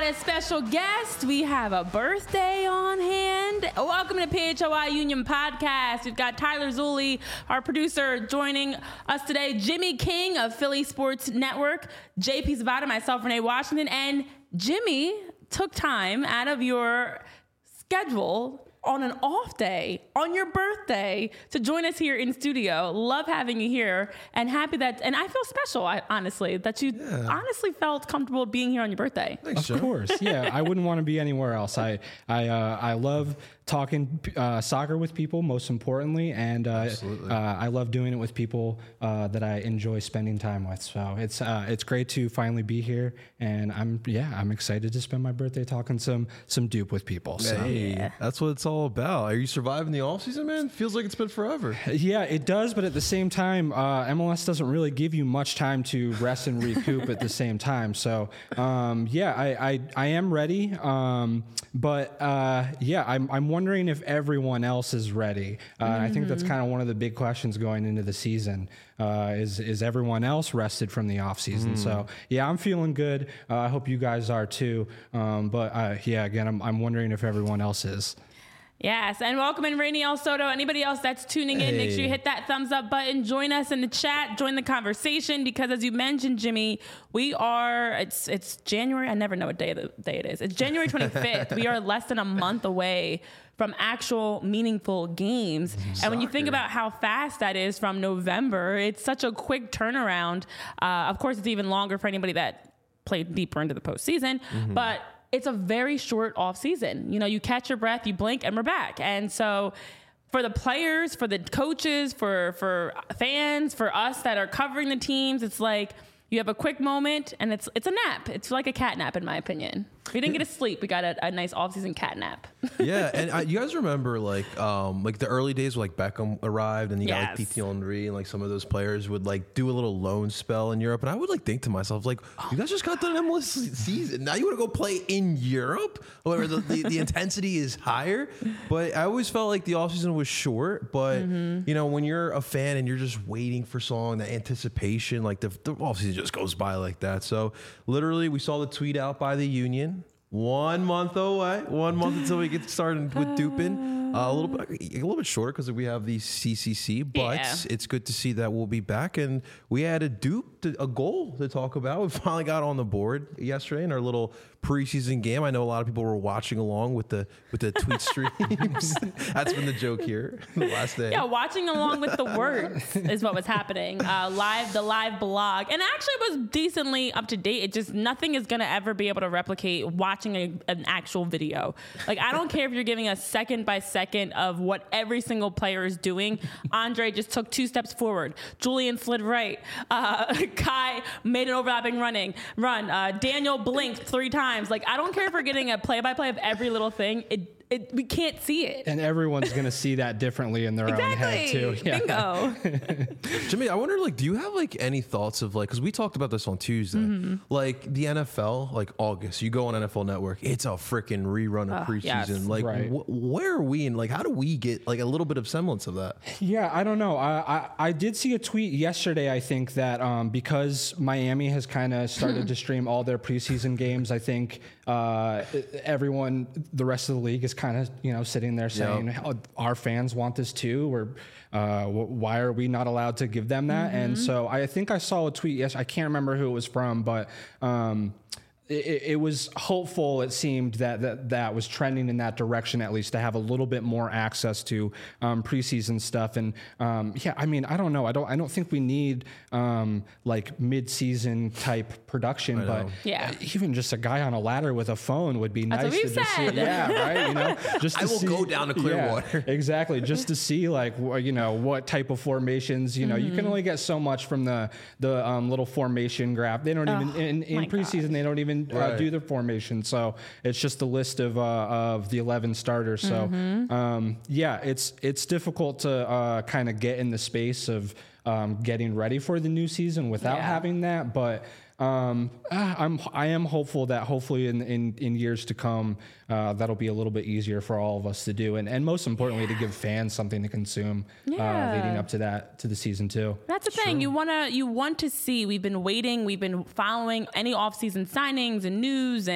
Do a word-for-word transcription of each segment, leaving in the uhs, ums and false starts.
got a special guest. We have a birthday on hand. Welcome to P H O I Union Podcast. We've got Tyler Zulli, our producer, joining us today. Jimmy King of Philly Sports Network. J P Zapata, myself, Renee Washington. And Jimmy took time out of your schedule on an off day, on your birthday, to join us here in studio. Love having you here, and happy that, and I feel special, I, honestly, that you yeah. honestly felt comfortable being here on your birthday. Thanks, of Joe. course, yeah. I wouldn't want to be anywhere else. I I uh, I love talking uh, soccer with people, most importantly, and uh, uh, I love doing it with people uh, that I enjoy spending time with. So it's uh, it's great to finally be here, and I'm yeah I'm excited to spend my birthday talking some some dupe with people. So. Hey, yeah. That's what it's all about. Are you surviving the off season, man? Feels like it's been forever. Yeah, it does, but at the same time, uh, M L S doesn't really give you much time to rest and recoup at the same time. So um, yeah, I, I I am ready, um, but uh, yeah, I'm I'm wondering if everyone else is ready. Uh, mm-hmm. I think that's kind of one of the big questions going into the season. Uh, is is everyone else rested from the off season? Mm. So yeah, I'm feeling good. Uh, I hope you guys are too. Um, but uh, yeah, again, I'm I'm wondering if everyone else is. Yes, and welcome in Rainy El Soto. Anybody else that's tuning in, hey. Make sure you hit that thumbs up button. Join us in the chat. Join the conversation, because as you mentioned, Jimmy, we are, it's it's January. I never know what day of the day it is. It's January twenty-fifth. We are less than a month away from actual meaningful games. Soccer. And when you think about how fast that is from November, it's such a quick turnaround. Uh, of course, it's even longer for anybody that played deeper into the postseason, mm-hmm. but it's a very short off season. You know, you catch your breath, you blink, and we're back. And so for the players, for the coaches, for, for fans, for us that are covering the teams, it's like you have a quick moment, and it's it's a nap. It's like a cat nap, in my opinion. We didn't get to sleep. We got a, a nice off-season cat nap. Yeah, and I, you guys remember like um, like the early days where like Beckham arrived, and you yes. got like Titi Henry, and like some of those players would like do a little loan spell in Europe, and I would like think to myself like, you guys just got done M L S season. Now you want to go play in Europe, where the, the, the intensity is higher. But I always felt like the offseason was short. But mm-hmm. you know, when you're a fan and you're just waiting for song, the anticipation, like the, the offseason just goes by like that. So literally, we saw the tweet out by the union. One month away, one month until we get started with duping. Uh, a little bit, a little bit short because we have the C C C, but yeah. it's good to see that we'll be back. And we had a dupe, to, a goal to talk about. We finally got on the board yesterday in our little preseason game. I know a lot of people were watching along with the with the tweet streams. That's been the joke here the last day. Yeah, watching along with the words is what was happening. Uh, live, the live blog, and actually it was decently up to date. It just nothing is gonna ever be able to replicate watching a, an actual video. Like I don't care if you're giving a second by second of what every single player is doing. Andre just took two steps forward. Julian slid right. Uh, Kai made an overlapping running run. Uh, Daniel blinked three times. Like I don't care if we're getting a play-by-play of every little thing. It, it we can't see it. And everyone's going to see that differently in their exactly. own head too. Yeah. Bingo. Jimmy, I wonder, like, do you have like any thoughts of like, because we talked about this on Tuesday, mm-hmm. like the N F L, like August, you go on N F L Network, it's a freaking rerun of uh, preseason. Yes. Like, right. wh- where are we in? Like, how do we get like a little bit of semblance of that? Yeah, I don't know. I I, I did see a tweet yesterday. I think that um, because Miami has kind of started to stream all their preseason games, I think uh, everyone, the rest of the league, is kind of you know sitting there saying, yep. oh, our fans want this too, or uh, why are we not allowed to give them that? Mm-hmm. And so I think I saw a tweet. Yes, I can't remember who it was from, but. Um, It, it was hopeful, it seemed, that, that that was trending in that direction, at least, to have a little bit more access to um, preseason stuff. And um, yeah, I mean, I don't know. I don't I don't think we need um, like mid-season type production, but yeah. even just a guy on a ladder with a phone would be That's nice what to just see. Yeah, right. You know, just to I will see, go down to Clearwater. Yeah, exactly, just to see like you know what type of formations. You know, mm-hmm. you can only get so much from the the um, little formation graph. They don't oh, even in, in preseason. Gosh. They don't even. Uh, right. do the formation, so it's just a list of uh, of the eleven starters. So mm-hmm. um, yeah, it's it's difficult to uh, kind of get in the space of um, getting ready for the new season without yeah. having that. But um, I'm I am hopeful that hopefully in in, in years to come uh, that'll be a little bit easier for all of us to do, and and most importantly yeah. to give fans something to consume yeah. uh, leading up to that to the season too. That's the True. thing. You wanna you want to see. We've been waiting. We've been following any off-season signings and news and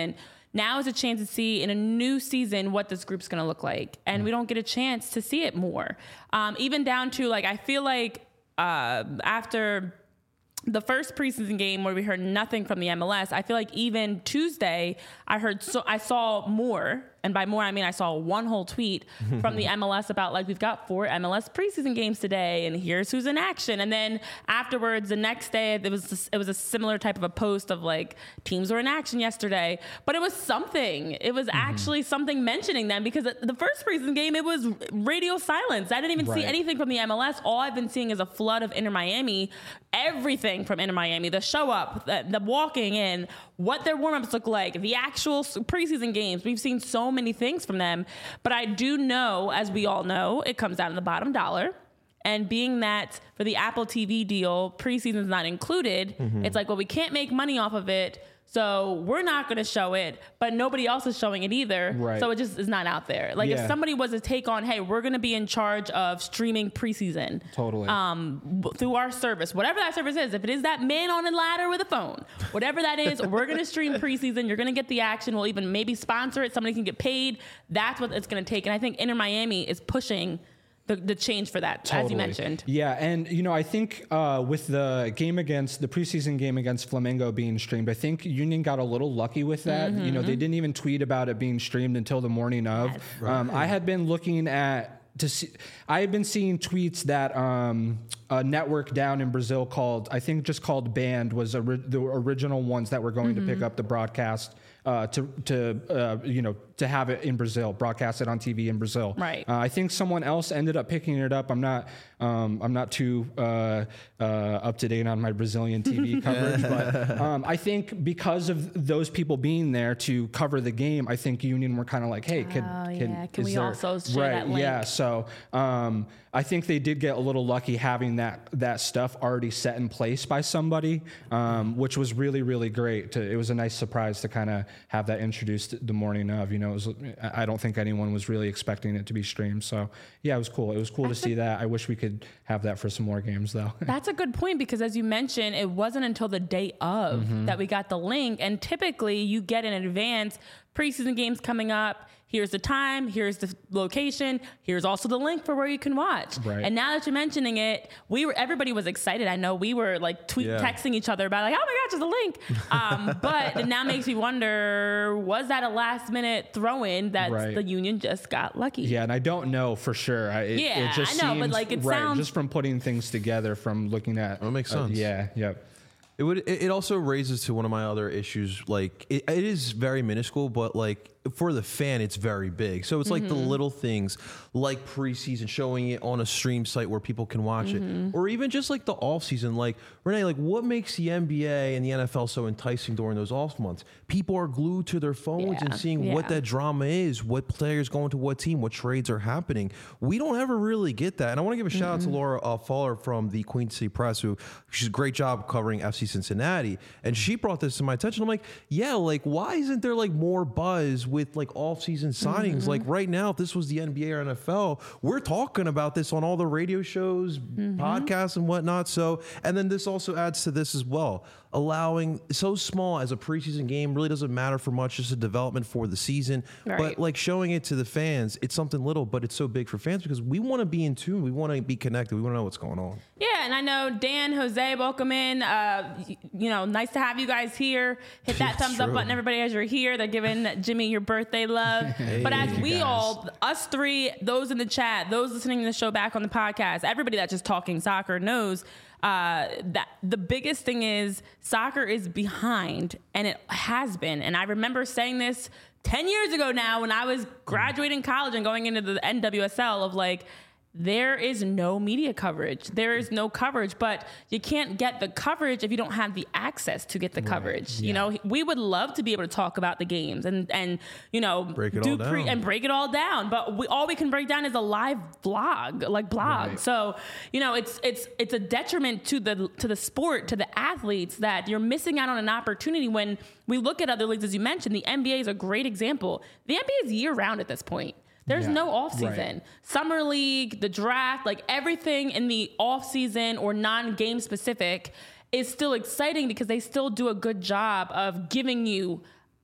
now is a chance to see in a new season what this group's going to look like. And mm. we don't get a chance to see it more. Um, even down to like, I feel like uh, after the first preseason game where we heard nothing from the M L S, I feel like even Tuesday, I heard, so I saw more. And by more, I mean, I saw one whole tweet from the M L S about like, we've got four M L S preseason games today and here's who's in action. And then afterwards, the next day, it was, it was a similar type of a post of like, teams were in action yesterday, but it was something. It was mm-hmm. actually something mentioning them, because the first preseason game, it was radio silence. I didn't even right. see anything from the M L S. All I've been seeing is a flood of Inter Miami, everything from Inter Miami, the show up, the, the walking in, what their warm-ups look like, the actual preseason games. We've seen so many things from them, but I do know, as we all know, it comes down to the bottom dollar. And being that for the Apple T V deal, preseason is not included, mm-hmm. it's like, well, we can't make money off of it, so we're not going to show it, but nobody else is showing it either. Right. So it just is not out there. Like yeah. if somebody was to take on, hey, we're going to be in charge of streaming preseason. Totally. Um, through our service, whatever that service is, if it is that man on a ladder with a phone, whatever that is, we're going to stream preseason. You're going to get the action. We'll even maybe sponsor it. Somebody can get paid. That's what it's going to take. And I think Inter Miami is pushing The, the change for that, totally. As you mentioned. Yeah, and, you know, I think uh, with the game against, the preseason game against Flamengo being streamed, I think Union got a little lucky with that. Mm-hmm. You know, they didn't even tweet about it being streamed until the morning of. Yes. Right. Um, I had been looking at, to see, I had been seeing tweets that um, a network down in Brazil called, I think just called Band, was a, the original ones that were going mm-hmm. to pick up the broadcast Uh, to to uh, you know to have it in Brazil, broadcast it on T V in Brazil. Right. Uh, I think someone else ended up picking it up. I'm not um, I'm not too uh, uh, up to date on my Brazilian T V coverage, but um, I think because of those people being there to cover the game, I think Union were kind of like, hey, can oh, can, yeah. can we there, also share right, that link? Yeah. So um, I think they did get a little lucky having that that stuff already set in place by somebody, um, which was really really great. To, it was a nice surprise to kind of have that introduced the morning of. You know, it was, I don't think anyone was really expecting it to be streamed. So yeah, it was cool. It was cool That's to see a, that. I wish we could have that for some more games though. That's a good point, because as you mentioned, it wasn't until the day of mm-hmm. that we got the link. And typically you get in advance preseason games coming up. Here's the time, here's the location, here's also the link for where you can watch. Right. And now that you're mentioning it, we were everybody was excited. I know we were like tweet yeah. texting each other about like, oh my gosh, there's a link. Um, but it now makes me wonder, was that a last minute throw in that right. the Union just got lucky? Yeah, and I don't know for sure. I, it, yeah, it just I know, seems, but like it right, sounds just from putting things together, from looking at. That makes sense. Uh, yeah, yeah. It would. It also raises to one of my other issues. Like it, it is very minuscule, but like for the fan, it's very big. So it's like mm-hmm. the little things, like preseason, showing it on a stream site where people can watch mm-hmm. it, or even just like the off season. Like Renee, like what makes the N B A and the N F L so enticing during those off months? People are glued to their phones yeah. and seeing yeah. what that drama is, what players going to what team, what trades are happening. We don't ever really get that. And I want to give a shout mm-hmm. out to Laura uh, Fowler from the Queen City Press, who she's a great job covering F C Cincinnati, and she brought this to my attention. I'm like, yeah, like why isn't there like more buzz with like off-season signings? Mm-hmm. Like right now, if this was the N B A or N F L, we're talking about this on all the radio shows, mm-hmm. podcasts, and whatnot. So, and then this also adds to this as well. Allowing so small as a preseason game really doesn't matter for much, just a development for the season. Right. But like showing it to the fans, it's something little, but it's so big for fans because we want to be in tune. We want to be connected. We want to know what's going on. Yeah, and I know Dan, Jose, welcome in. Uh, you know, nice to have you guys here. Hit that thumbs true. up button, everybody, as you're here. They're giving Jimmy your birthday love. Hey, but as we guys. all, us three, those in the chat, those listening to the show back on the podcast, everybody that's just talking soccer knows uh, that the biggest thing is soccer is behind, and it has been. And I remember saying this ten years ago now when I was graduating college and going into the N W S L of like, there is no media coverage. There is no coverage, but you can't get the coverage if you don't have the access to get the right. coverage. Yeah. You know, we would love to be able to talk about the games and, and you know, break it do all down. Pre- and break it all down. But we, all we can break down is a live vlog, like blog. Right. So, you know, it's it's it's a detriment to the to the sport, to the athletes, that you're missing out on an opportunity. When we look at other leagues, as you mentioned, the N B A is a great example. The N B A is year round at this point. There's yeah, no off season. Right. Summer league, the draft, like everything in the off season or non-game specific is still exciting because they still do a good job of giving you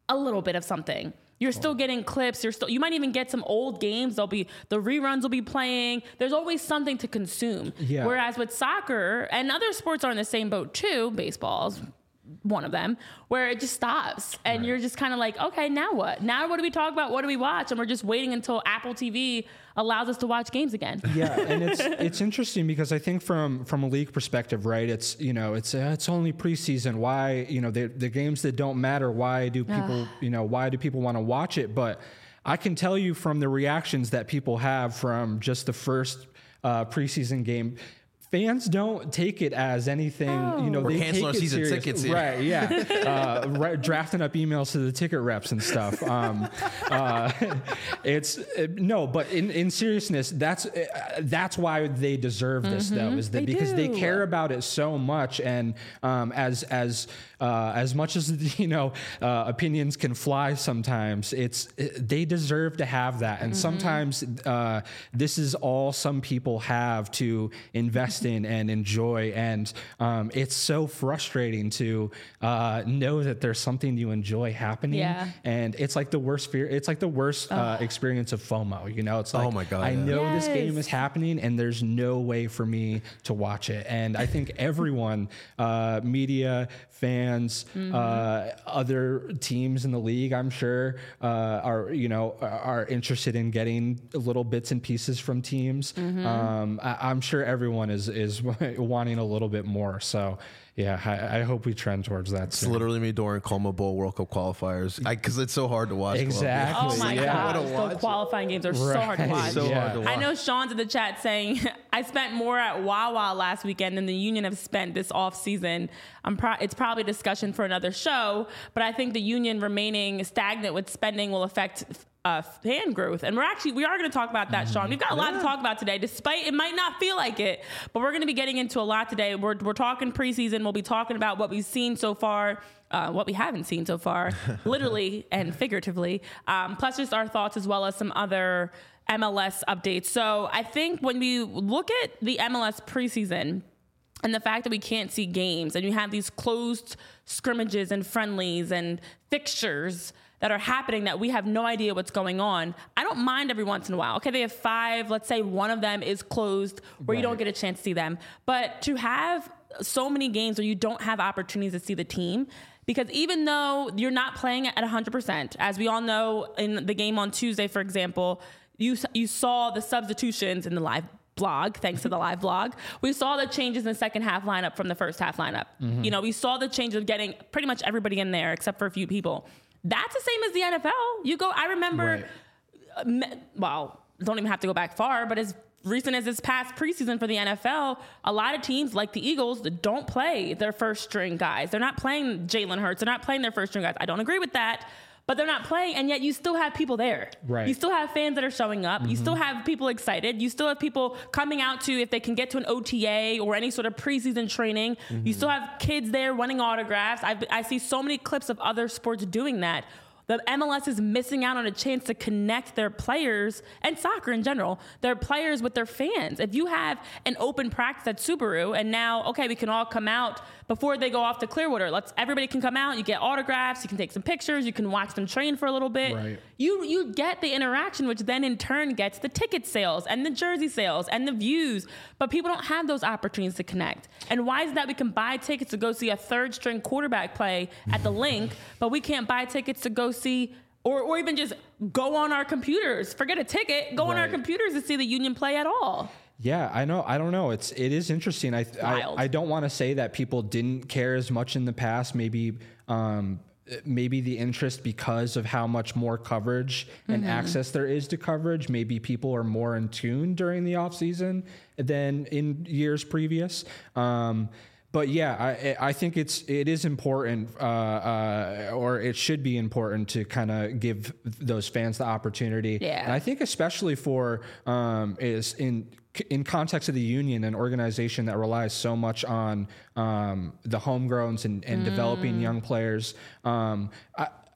a little bit of something. You're still getting clips. You're still, you might even get some old games. There'll be, the reruns will be playing. There's always something to consume. Yeah. Whereas with soccer, and other sports are in the same boat too, baseball's one of them, where it just stops. And right. you're just kind of like, okay, now what? Now what do we talk about? What do we watch? And we're just waiting until Apple T V allows us to watch games again. Yeah, and it's it's interesting because I think from from a league perspective, right? It's you know it's uh, it's only preseason. Why you know the the games that don't matter? Why do people you know why do people want to watch it? But I can tell you from the reactions that people have from just the first uh, preseason game. Fans don't take it as anything, oh. you know, We're they canceling our take it season serious. tickets here. Right, yeah. uh, right, drafting up emails to the ticket reps and stuff. Um, uh, it's, uh, no, but in, in seriousness, that's uh, that's why they deserve this, mm-hmm. though, is that they because do. they care about it so much. And um, as, as, uh, as much as, you know, uh, opinions can fly sometimes, it's, it, they deserve to have that. And mm-hmm. sometimes uh, this is all some people have to invest in and enjoy, and um, it's so frustrating to uh, know that there's something you enjoy happening, yeah. and it's like the worst fear. It's like the worst uh, experience of FOMO. You know, it's like, oh my God, I yeah. know yes. this game is happening, and there's no way for me to watch it. And I think everyone, uh, media, fans, mm-hmm. uh, other teams in the league, I'm sure, uh, are you know are interested in getting little bits and pieces from teams. Mm-hmm. Um, I, I'm sure everyone is. is wanting a little bit more. So yeah, I, I hope we trend towards that It's soon. literally me during Como Bowl World Cup qualifiers because it's so hard to watch. Exactly. Oh my yeah. God, those qualifying games are right. so hard to watch. So yeah. hard to watch. I know Sean's in the chat saying, I spent more at Wawa last weekend than the Union have spent this off season. I'm pro- it's probably a discussion for another show, but I think the Union remaining stagnant with spending will affect uh, fan growth. And we're actually, we are going to talk about that, mm-hmm. Sean. We've got a lot yeah. to talk about today, despite it might not feel like it, but we're going to be getting into a lot today. We're, we're talking preseason. We'll be talking about what we've seen so far, uh, what we haven't seen so far, literally and figuratively, um, plus just our thoughts as well as some other M L S updates. So I think when we look at the M L S preseason, and the fact that we can't see games and you have these closed scrimmages and friendlies and fixtures that are happening that we have no idea what's going on, I don't mind every once in a while. Okay, they have five. Let's say one of them is closed where right. you don't get a chance to see them. But to have so many games where you don't have opportunities to see the team, because even though you're not playing at one hundred percent, as we all know in the game on Tuesday, for example, you you saw the substitutions in the live blog, thanks to the live blog. We saw the changes in the second half lineup from the first half lineup. Mm-hmm. You know, we saw the change of getting pretty much everybody in there except for a few people. That's the same as the N F L. You go, I remember, right. uh, well, don't even have to go back far, but as recent as this past preseason for the N F L, a lot of teams like the Eagles don't play their first string guys. They're not playing Jalen Hurts. They're not playing their first string guys. I don't agree with that. But they're not playing, and yet you still have people there. Right. You still have fans that are showing up. Mm-hmm. You still have people excited. You still have people coming out to, if they can get to an O T A or any sort of preseason training. Mm-hmm. You still have kids there wanting autographs. I've, I see so many clips of other sports doing that. The M L S is missing out on a chance to connect their players, and soccer in general, their players with their fans. If you have an open practice at Subaru, and now, okay, we can all come out before they go off to Clearwater. Let's everybody can come out. You get autographs. You can take some pictures. You can watch them train for a little bit. Right. You you get the interaction, which then in turn gets the ticket sales and the jersey sales and the views. But people don't have those opportunities to connect. And why is that? We can buy tickets to go see a third string quarterback play at the Link, but we can't buy tickets to go see, or or even just go on our computers. Forget a ticket. Go right. on our computers to see the Union play at all. Yeah, I know. I don't know. It's it is interesting. I I, I don't want to say that people didn't care as much in the past. Maybe um, maybe the interest because of how much more coverage and mm-hmm. access there is to coverage. Maybe people are more in tune during the off season than in years previous. Um, But yeah, I I think it's it is important, uh, uh, or it should be important to kind of give those fans the opportunity. Yeah. And I think especially for um, is in in context of the Union, an organization that relies so much on um, the homegrowns and, and mm. developing young players. Um, I,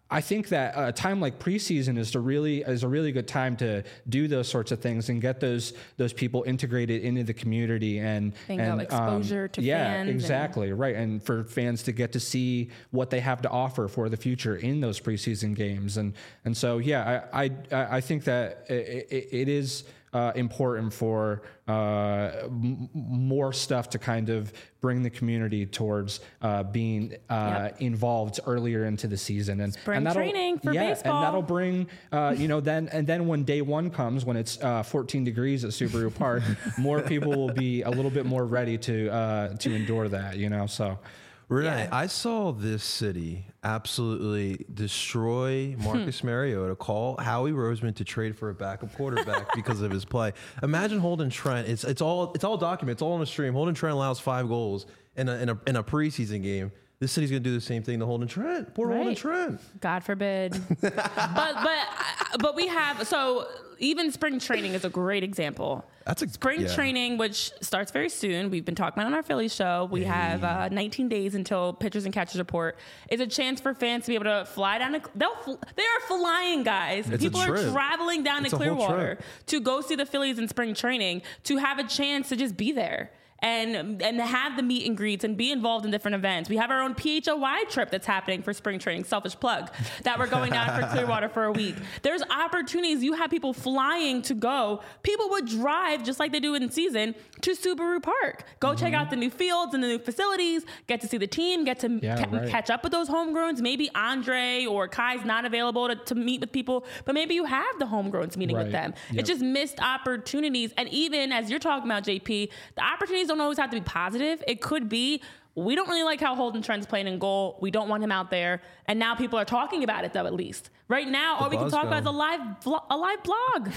I think that a time like preseason is to really is a really good time to do those sorts of things and get those those people integrated into the community and Bingo, and exposure um, to yeah, fans. exactly right, and for fans to get to see what they have to offer for the future in those preseason games, and and so yeah, I I, I think that it, it, it is. Uh, important for uh, m- more stuff to kind of bring the community towards uh, being uh, Yep. involved earlier into the season, and Spring and that'll, training for yeah, baseball. and that'll bring uh, you know then and then when day one comes, when it's uh, fourteen degrees at Subaru Park, more people will be a little bit more ready to uh, to endure that, you know. So. Renee, Yeah. I saw this city absolutely destroy Marcus Mariota, call Howie Roseman to trade for a backup quarterback because of his play. Imagine Holden Trent. It's it's all it's all documented. It's all on the stream. Holden Trent allows five goals in a in a, in a preseason game. This city's gonna do the same thing to Holden Trent. Poor Holden Right. Trent. God forbid. but but but we have so even spring training is a great example. That's a Spring yeah. training, which starts very soon. We've been talking about it on our Philly show. We have uh, nineteen days until pitchers and catchers report. It's a chance for fans to be able to fly down. To, they'll fl- they are flying, guys. It's a People are trip. traveling down It's to a whole Clearwater trip. to go see the Phillies in spring training to have a chance to just be there. And and have the meet and greets and be involved in different events. We have our own P H O Y trip that's happening for spring training, selfish plug, that we're going down for Clearwater for a week. There's opportunities. You have people flying to go. People would drive, just like they do in season, to Subaru Park. Go Mm-hmm. check out the new fields and the new facilities, get to see the team, get to Yeah, ca- right. catch up with those homegrowns. Maybe Andre or Kai's not available to, to meet with people, but maybe you have the homegrowns meeting with Right. them. Yep. It's just missed opportunities. And even as you're talking about, J P, the opportunities don't always have to be positive. It could be, we don't really like how Holden Trent's playing in goal. We don't want him out there. And now people are talking about it, though, at least. Right now, all we can buzz talk about is a going. live, vlo- a live blog.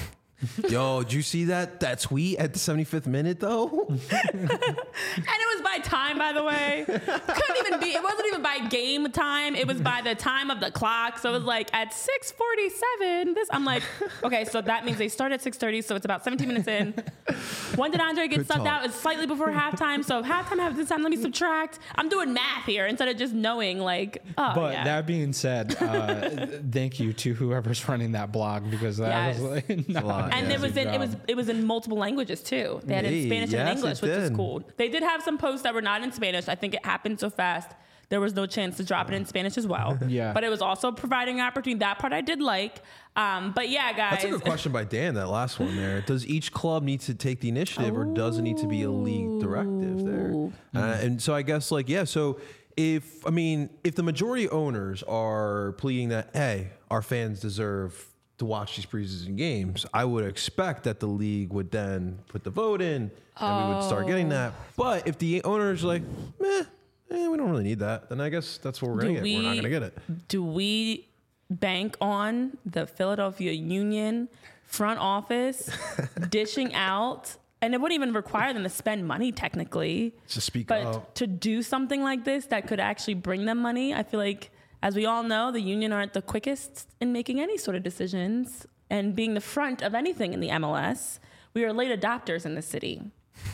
Yo, did you see that that tweet at the seventy-fifth minute though? And it was by time, by the way. Couldn't even be, it wasn't even by game time. It was by the time of the clock. So it was like at six forty-seven. This, I'm like, okay, so that means they start at six thirty. So it's about seventeen minutes in. When did Andre get Good subbed talk. out? It's slightly before halftime. So if halftime happens this time, let me subtract. I'm doing math here instead of just knowing, like, oh, But yeah. that being said, uh, thank you to whoever's running that blog, because that Yes. was like, not lot. And an it was easy in it was job. it was in multiple languages too. They had it Hey, in Spanish yes, and it English, which is did. cool. They did have some posts that were not in Spanish. I think it happened so fast. There was no chance to drop it in Spanish as well. Yeah. But it was also providing opportunity. That part I did like. Um, but yeah, guys. That's a good question by Dan, that last one there. Does each club need to take the initiative or does it need to be a league directive there? Uh, and so I guess, like, yeah, so if, I mean, if the majority owners are pleading that, hey, our fans deserve to watch these preseason games, I would expect that the league would then put the vote in and we would start getting that. But if the owners are like, meh, eh, we don't really need that, then I guess that's what we're going to Do get. We're not we- going to get it. Do we bank on the Philadelphia Union front office dishing out? And it wouldn't even require them to spend money technically. Just speak But up. to do something like this that could actually bring them money, I feel like, as we all know, the union aren't the quickest in making any sort of decisions and being the front of anything in the M L S. We are late adopters in the city.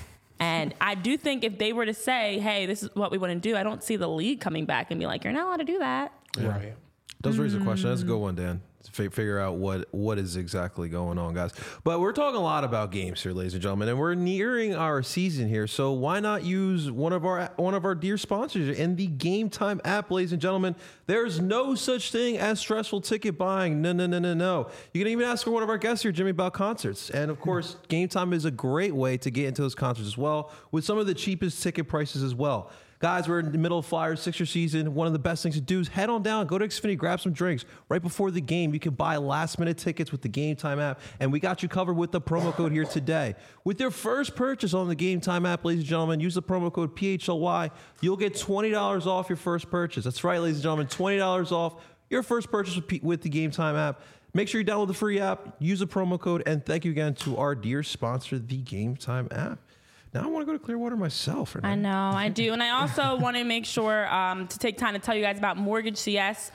And I do think if they were to say, hey, this is what we want to do, I don't see the league coming back and be like, you're not allowed to do that. Right. Does raise a question. That's a good one, Dan. To fi- figure out what what is exactly going on, guys. But we're talking a lot about games here, ladies and gentlemen, and we're nearing our season here. So why not use one of our one of our dear sponsors in the Game Time app, ladies and gentlemen? There's no such thing as stressful ticket buying. No, no, no, no, no. You can even ask for one of our guests here, Jimmy, about concerts. And of course, Game Time is a great way to get into those concerts as well, with some of the cheapest ticket prices as well. Guys, we're in the middle of Flyers Sixer season. One of the best things to do is head on down, go to Xfinity, grab some drinks. Right before the game, you can buy last-minute tickets with the Game Time app, and we got you covered with the promo code here today. With your first purchase on the Game Time app, ladies and gentlemen, use the promo code P H L Y. You'll get twenty dollars off your first purchase. That's right, ladies and gentlemen, twenty dollars off your first purchase with, P- with the Game Time app. Make sure you download the free app, use the promo code, and thank you again to our dear sponsor, the Game Time app. Now I want to go to Clearwater myself. Renee. I know, I do. And I also want to make sure um, to take time to tell you guys about Mortgage C S,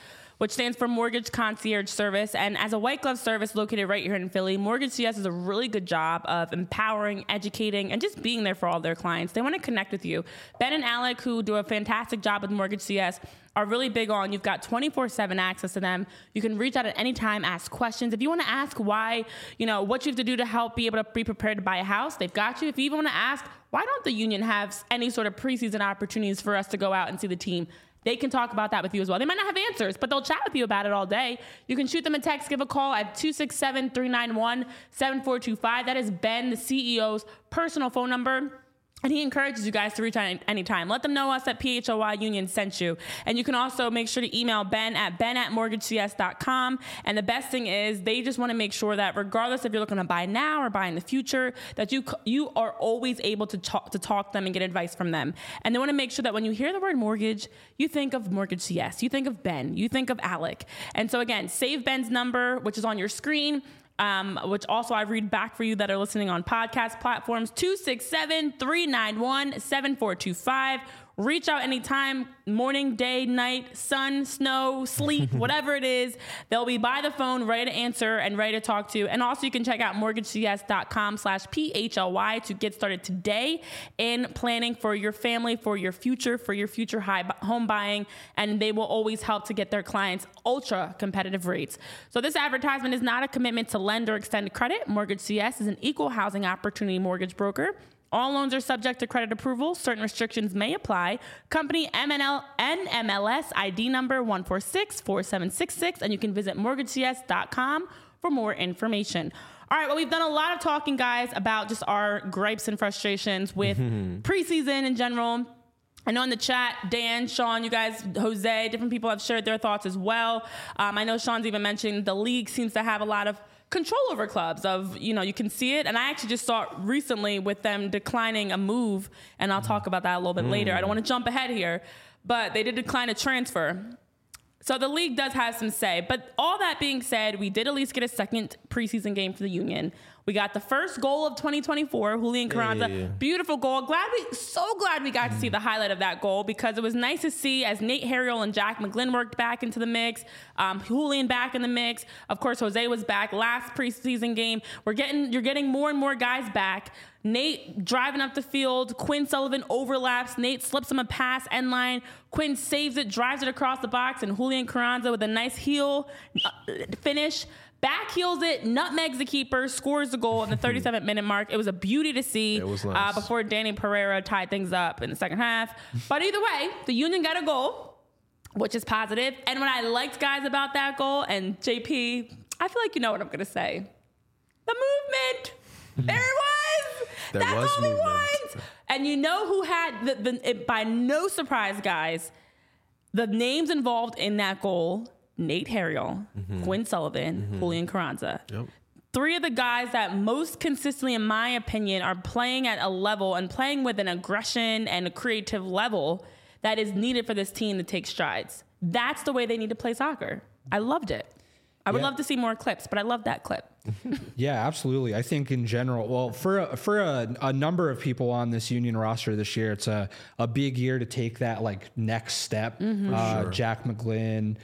which stands for Mortgage Concierge Service. And as a white glove service located right here in Philly, Mortgage C S does a really good job of empowering, educating, and just being there for all their clients. They want to connect with you. Ben and Alec, who do a fantastic job with Mortgage C S, are really big on, you've got twenty-four seven access to them. You can reach out at any time, ask questions. If you want to ask why, you know, what you have to do to help be able to be prepared to buy a house, they've got you. If you even want to ask, why don't the Union have any sort of preseason opportunities for us to go out and see the team, they can talk about that with you as well. They might not have answers, but they'll chat with you about it all day. You can shoot them a text, give a call at two six seven, three nine one, seven four two five. That is Ben, the C E O's personal phone number. And he encourages you guys to reach out anytime. Let them know us at P H O Y Union sent you. And you can also make sure to email Ben at ben at mortgage c s dot com. And the best thing is they just want to make sure that regardless if you're looking to buy now or buy in the future, that you you are always able to talk to talk to them and get advice from them. And they want to make sure that when you hear the word mortgage, you think of Mortgage C S. You think of Ben. You think of Alec. And so again, save Ben's number, which is on your screen. Um, which also I read back for you that are listening on podcast platforms, two six seven, three nine one, seven four two five. Reach out anytime, morning, day, night, sun, snow, sleet, whatever it is. They'll be by the phone, ready to answer and ready to talk to you. And also you can check out mortgage c s dot com slash P H L Y to get started today in planning for your family, for your future, for your future high home buying. And they will always help to get their clients ultra competitive rates. So this advertisement is not a commitment to lend or extend credit. Mortgage C S is an equal housing opportunity mortgage broker. All loans are subject to credit approval. Certain restrictions may apply. Company M N L N M L S I D number one four six four seven six six, and you can visit mortgage c s dot com for more information. All right, well, we've done a lot of talking, guys, about just our gripes and frustrations with preseason in general. I know in the chat, Dan, Sean, you guys, Jose, different people have shared their thoughts as well. Um, I know Sean's even mentioned the league seems to have a lot of control over clubs of, you know, you can see it. And I actually just saw it recently with them declining a move, and I'll talk about that a little bit mm. later. I don't want to jump ahead here, but they did decline a transfer. So the league does have some say. But all that being said, we did at least get a second preseason game for the Union. We got the first goal of twenty twenty-four, Julian Carranza. Hey. Beautiful goal. Glad we, so glad we got to see the highlight of that goal, because it was nice to see as Nate Harriel and Jack McGlynn worked back into the mix, um, Julian back in the mix. Of course, Jose was back last preseason game. We're getting, you're getting more and more guys back. Nate driving up the field. Quinn Sullivan overlaps. Nate slips him a pass, end line. Quinn saves it, drives it across the box, and Julian Carranza with a nice heel uh, finish. Back heels it, nutmegs the keeper, scores the goal in the thirty-seventh minute mark. It was a beauty to see. It was nice. uh, before Danny Pereira tied things up in the second half. But either way, the Union got a goal, which is positive. And what I liked, guys, about that goal, and J P, I feel like you know what I'm going to say. The movement. There it was. There That's was all we movement. want. And you know who had, the, the it, by no surprise, guys, the names involved in that goal: Nate Harriel, mm-hmm. Quinn Sullivan, mm-hmm. Julian Carranza. Yep. Three of the guys that most consistently, in my opinion, are playing at a level and playing with an aggression and a creative level that is needed for this team to take strides. That's the way they need to play soccer. I loved it. I would yeah. love to see more clips, but I love that clip. Yeah, absolutely. I think in general, well, for a, for a, a number of people on this Union roster this year, it's a, a big year to take that like next step. Mm-hmm. Uh, sure. Jack McGlynn,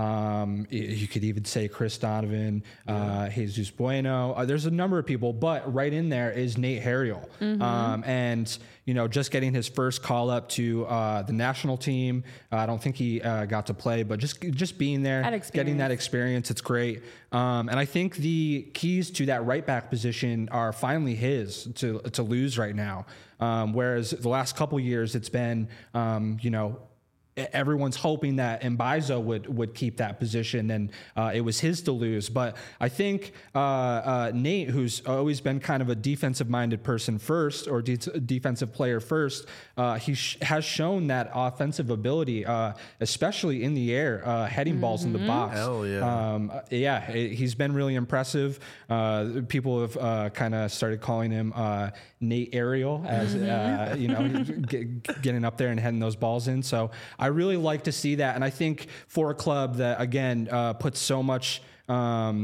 um, you could even say Chris Donovan, yeah. uh, Jesus Bueno. Uh, there's a number of people, but right in there is Nate Harriel. Mm-hmm. Um, and, you know, just getting his first call up to uh, the national team. Uh, I don't think he uh, got to play, but just just being there, that getting that experience, it's great. Um, and I think the keys to that right back position are finally his to to lose right now. Um, whereas the last couple years, it's been, um, you know, everyone's hoping that Mbaizo would would keep that position, and uh, it was his to lose. But I think uh, uh, Nate, who's always been kind of a defensive-minded person first, or de- defensive player first, uh, he sh- has shown that offensive ability, uh, especially in the air, uh, heading mm-hmm. balls in the box. Hell yeah. Um, yeah, it, he's been really impressive. Uh, people have uh, kind of started calling him uh, Nate Ariel, as uh, you know, get, getting up there and heading those balls in. So I really like to see that. And I think for a club that, again, uh, puts so much um,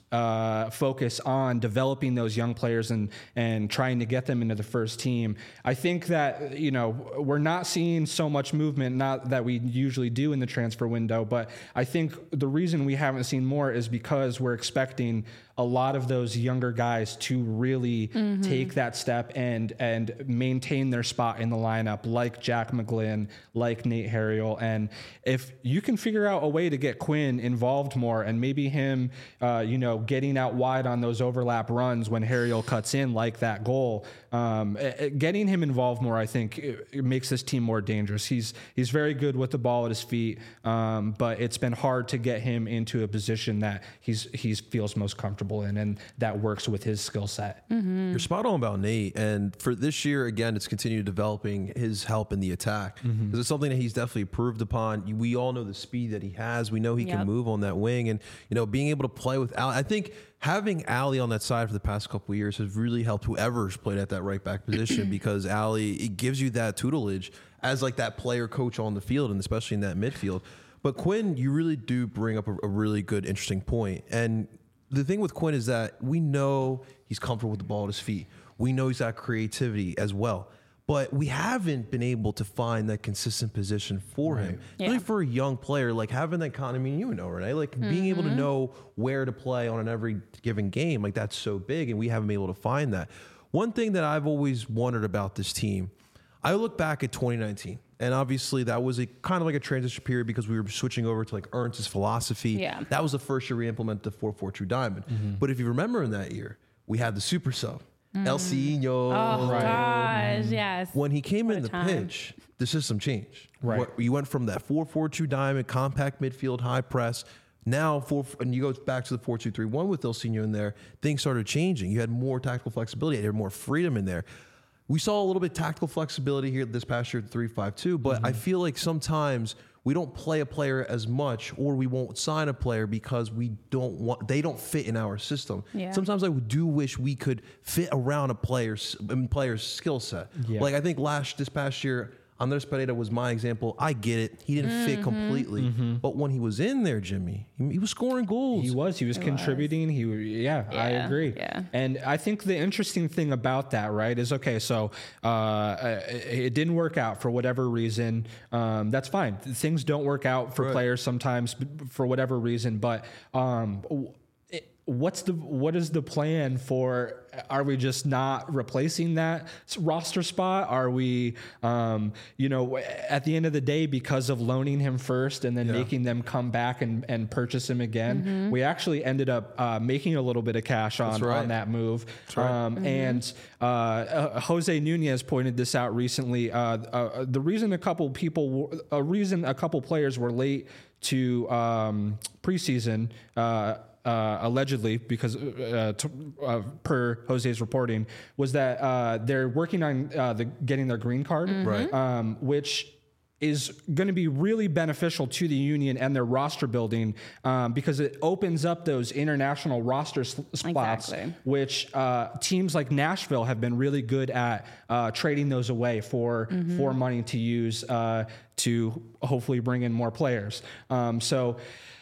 uh, focus on developing those young players and and trying to get them into the first team. I think that, you know, we're not seeing so much movement, not that we usually do in the transfer window, but I think the reason we haven't seen more is because we're expecting a lot of those younger guys to really mm-hmm. take that step and and maintain their spot in the lineup, like Jack McGlynn, like Nate Harriel. And if you can figure out a way to get Quinn involved more, and maybe him, uh, you know, getting out wide on those overlap runs when Harriel cuts in, like that goal, um, getting him involved more, I think, it, it makes this team more dangerous. He's he's very good with the ball at his feet, um, but it's been hard to get him into a position that he's he feels most comfortable in, and that works with his skill set. Mm-hmm. You're spot on about Nate, and for this year, again, it's continued developing his help in the attack, because mm-hmm. it's something that he's definitely improved upon. We all know the speed that he has. We know he yep. can move on that wing, and you know, being able to play with Al, I think having Ali on that side for the past couple of years has really helped whoever's played at that right back position, because Ali, it gives you that tutelage as like that player coach on the field, and especially in that midfield. But Quinn, you really do bring up a, a really good, interesting point. And the thing with Quinn is that we know he's comfortable with the ball at his feet. We know he's got creativity as well. But we haven't been able to find that consistent position for right. him. Yeah. Really for a young player, like having that kind of, I mean, you know, Renee, like mm-hmm. being able to know where to play on an every given game, like that's so big, and we haven't been able to find that. One thing that I've always wondered about this team, I look back at twenty nineteen, and obviously that was a kind of like a transition period because we were switching over to like Ernst's philosophy. Yeah. That was the first year we implemented the four four two diamond. Mm-hmm. But if you remember in that year, we had the super sub. Mm. El Cino. Oh, right. gosh, yes. When he came what in the time. pitch, the system changed. Right. What, you went from that four four two diamond, compact midfield, high press. Now, four, and you go back to the four two three one with El Cino in there, things started changing. You had more tactical flexibility. You had more freedom in there. We saw a little bit of tactical flexibility here this past year at the three five two, but mm-hmm. I feel like sometimes we don't play a player as much, or we won't sign a player because we don't want, they don't fit in our system. Yeah. Sometimes I do wish we could fit around a player's player's skill set. Yeah. Like I think last this past year, Andres Pereira was my example. I get it. He didn't mm-hmm. fit completely. Mm-hmm. But when he was in there, Jimmy, he, he was scoring goals. He was. He was he contributing. Was. He was, yeah, yeah, I agree. Yeah. And I think the interesting thing about that, right, is, okay, so uh, it didn't work out for whatever reason. Um, that's fine. Things don't work out for right. players sometimes for whatever reason. But um, it, what's the what is the plan for? Are we just not replacing that roster spot? Are we, um, you know, at the end of the day, because of loaning him first and then yeah. making them come back and, and purchase him again, mm-hmm. we actually ended up uh, making a little bit of cash on, right. on that move. Right. Um, mm-hmm. And uh, uh, Jose Nunez pointed this out recently. Uh, uh, the reason a couple people, a reason a couple players were late to um, preseason, uh, Uh, allegedly, because uh, to, uh, per Jose's reporting, was that uh, they're working on uh, the, getting their green card, mm-hmm. right? Um, which is going to be really beneficial to the union and their roster building, um, because it opens up those international roster s- spots, exactly. which uh, teams like Nashville have been really good at uh, trading those away for mm-hmm. for money to use uh, to hopefully bring in more players. Um, so.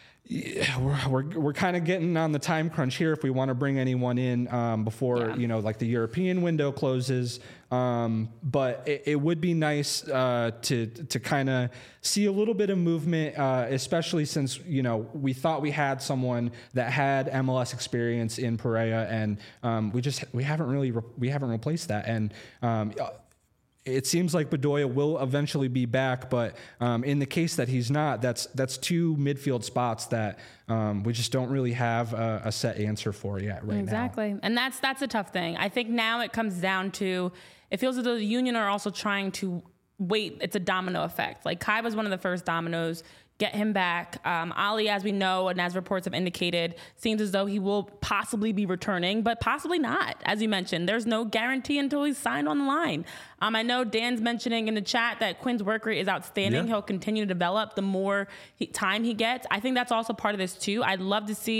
Yeah, we're we're, we're kind of getting on the time crunch here if we want to bring anyone in um, before yeah. you know, like the European window closes. Um, but it, it would be nice uh, to to kind of see a little bit of movement, uh, especially since, you know, we thought we had someone that had M L S experience in Pereira, and um, we just we haven't really re- we haven't replaced that. And um, it seems like Bedoya will eventually be back, but um, in the case that he's not, that's that's two midfield spots that um, we just don't really have a, a set answer for yet right exactly. now. Exactly, and that's that's a tough thing. I think now it comes down to, it feels as though the union are also trying to wait. It's a domino effect. Like Kai was one of the first dominoes. Get him back. Um, Ali, as we know, and as reports have indicated, seems as though he will possibly be returning, but possibly not. As you mentioned, there's no guarantee until he's signed on the line. Um, I know Dan's mentioning in the chat that Quinn's work rate is outstanding. Yeah. He'll continue to develop the more he, time he gets. I think that's also part of this too. I'd love to see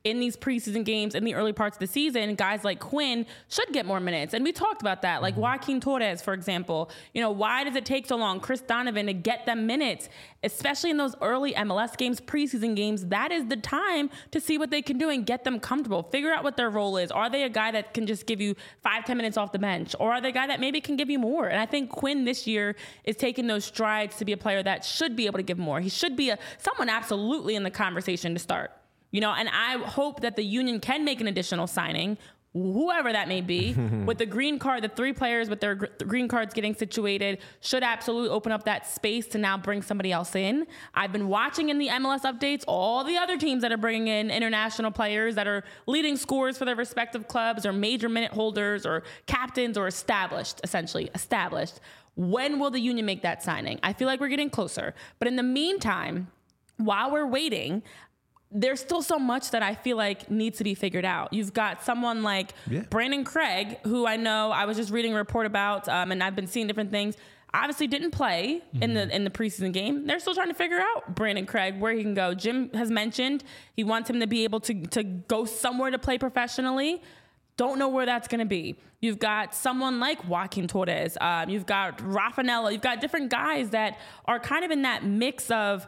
in these preseason games in the early parts of the season, guys like Quinn should get more minutes. And we talked about that, like Joaquin Torres, for example. You know, why does it take so long, Chris Donovan, to get them minutes, especially in those early M L S games, preseason games? That is the time to see what they can do and get them comfortable. Figure out what their role is. Are they a guy that can just give you five, ten minutes off the bench? Or are they a guy that maybe can give you more? And I think Quinn this year is taking those strides to be a player that should be able to give more. He should be a someone absolutely in the conversation to start. You know, and I hope that the Union can make an additional signing, whoever that may be, with the green card. The three players with their gr- green cards getting situated should absolutely open up that space to now bring somebody else in. I've been watching in the M L S updates all the other teams that are bringing in international players that are leading scorers for their respective clubs or major minute holders or captains or established, essentially established. When will the Union make that signing? I feel like we're getting closer. But in the meantime, while we're waiting, there's still so much that I feel like needs to be figured out. You've got someone like yeah. Brandon Craig, who I know I was just reading a report about, um, and I've been seeing different things. Obviously didn't play mm-hmm. in the in the preseason game. They're still trying to figure out Brandon Craig, where he can go. Jim has mentioned he wants him to be able to, to go somewhere to play professionally. Don't know where that's going to be. You've got someone like Joaquin Torres. Um, you've got Raffanello. You've got different guys that are kind of in that mix of,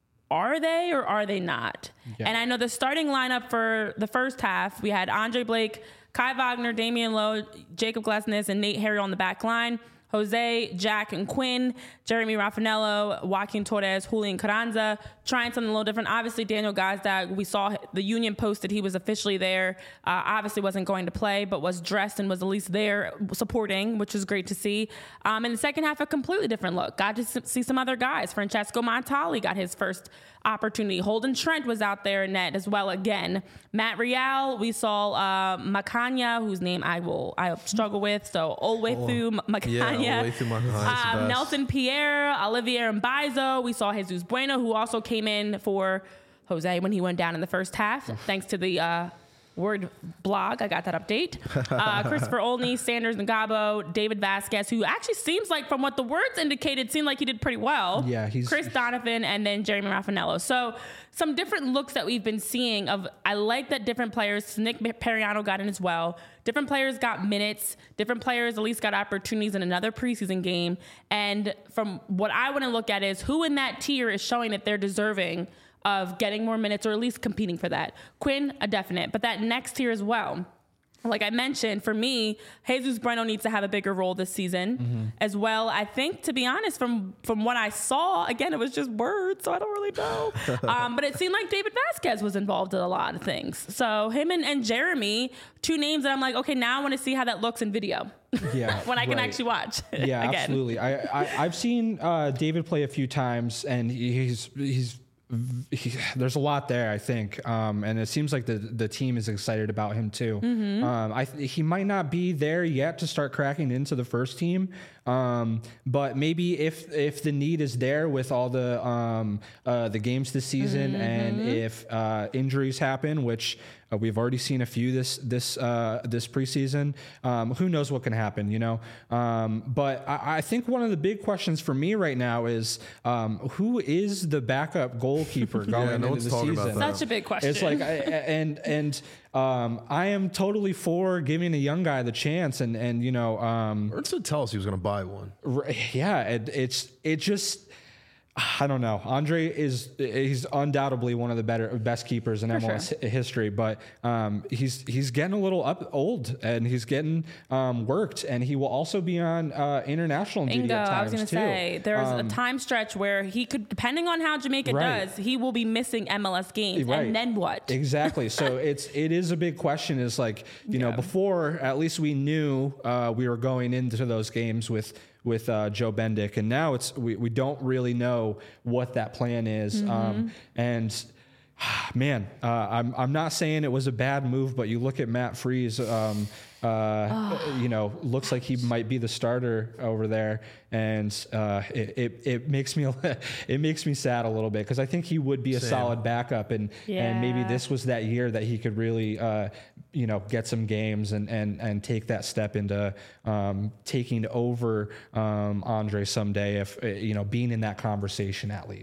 are they or are they not? Yeah. And I know the starting lineup for the first half, we had Andre Blake, Kai Wagner, Damian Lowe, Jacob Glesnes, and Nate Harry on the back line. Jose, Jack, and Quinn, Jeremy Raffanello, Joaquin Torres, Julian Carranza, trying something a little different. Obviously, Daniel Gazdag, we saw the Union posted he was officially there. Uh, obviously wasn't going to play, but was dressed and was at least there supporting, which is great to see. Um, in the second half, a completely different look. Got to see some other guys. Francesco Montali got his first opportunity. Holden Trent was out there in net as well again. Matt Real, we saw uh, Macania, whose name I will I struggle with, so all the way oh, through Macania. Yeah, all the way through Macania. Um, Nelson Pierre, Olivier Mbaizo. We saw Jesus Bueno, who also came in for Jose when he went down in the first half, thanks to the uh, Word blog. I got that update. Uh, Christopher Olney, Sanders Ngabo, David Vasquez, who actually seems like, from what the words indicated, seemed like he did pretty well. Yeah, he's Chris Donovan, and then Jeremy Raffanello. So some different looks that we've been seeing of, I like that different players, Nick Periano got in as well. Different players got minutes. Different players at least got opportunities in another preseason game. And from what I want to look at is who in that tier is showing that they're deserving of getting more minutes or at least competing for that. Quinn, a definite, but that next tier as well. Like I mentioned, for me, Jesus Bueno needs to have a bigger role this season mm-hmm. as well. I think, to be honest, from from what I saw, again, it was just words, so I don't really know. um, but it seemed like David Vasquez was involved in a lot of things. So him and, and Jeremy, two names that I'm like, okay, now I want to see how that looks in video. Yeah, when I can right. actually watch. Yeah, again. absolutely. I, I I've seen uh, David play a few times, and he's he's. He, there's a lot there, I think, um, and it seems like the the team is excited about him too. Mm-hmm. Um, I th- he might not be there yet to start cracking into the first team, um, but maybe if if the need is there with all the um, uh, the games this season, mm-hmm. and if uh, injuries happen, which uh, we've already seen a few this this uh, this preseason, um, who knows what can happen, you know? Um, but I, I think one of the big questions for me right now is um, who is the backup goal goalkeeper going yeah, no into the season. Such a big question. It's like, I, and and um, I am totally for giving a young guy the chance, and and you know, um, Ernst would tell us he was going to buy one. Yeah, it, it's it just. I don't know. Andre is he's undoubtedly one of the better best keepers in For M L S sure. history, but um, he's he's getting a little up old and he's getting um, worked, and he will also be on uh, international Bingo, duty at times I was going to say there's um, a time stretch where he could, depending on how Jamaica right. does, he will be missing M L S games, right. and then what? Exactly. So it's it is a big question. Is like you yeah. know before at least we knew uh, we were going into those games with. with uh, Joe Bendick, and now it's we, we don't really know what that plan is. Mm-hmm. Um, and man, uh, I'm I'm not saying it was a bad move, but you look at Matt Freese, um, uh, oh. you know, looks like he might be the starter over there, and uh, it, it it makes me it makes me sad a little bit because I think he would be a Same. solid backup, and yeah. and maybe this was that year that he could really uh, you know get some games and and and take that step into um, taking over um, Andre someday, if you know being in that conversation at least.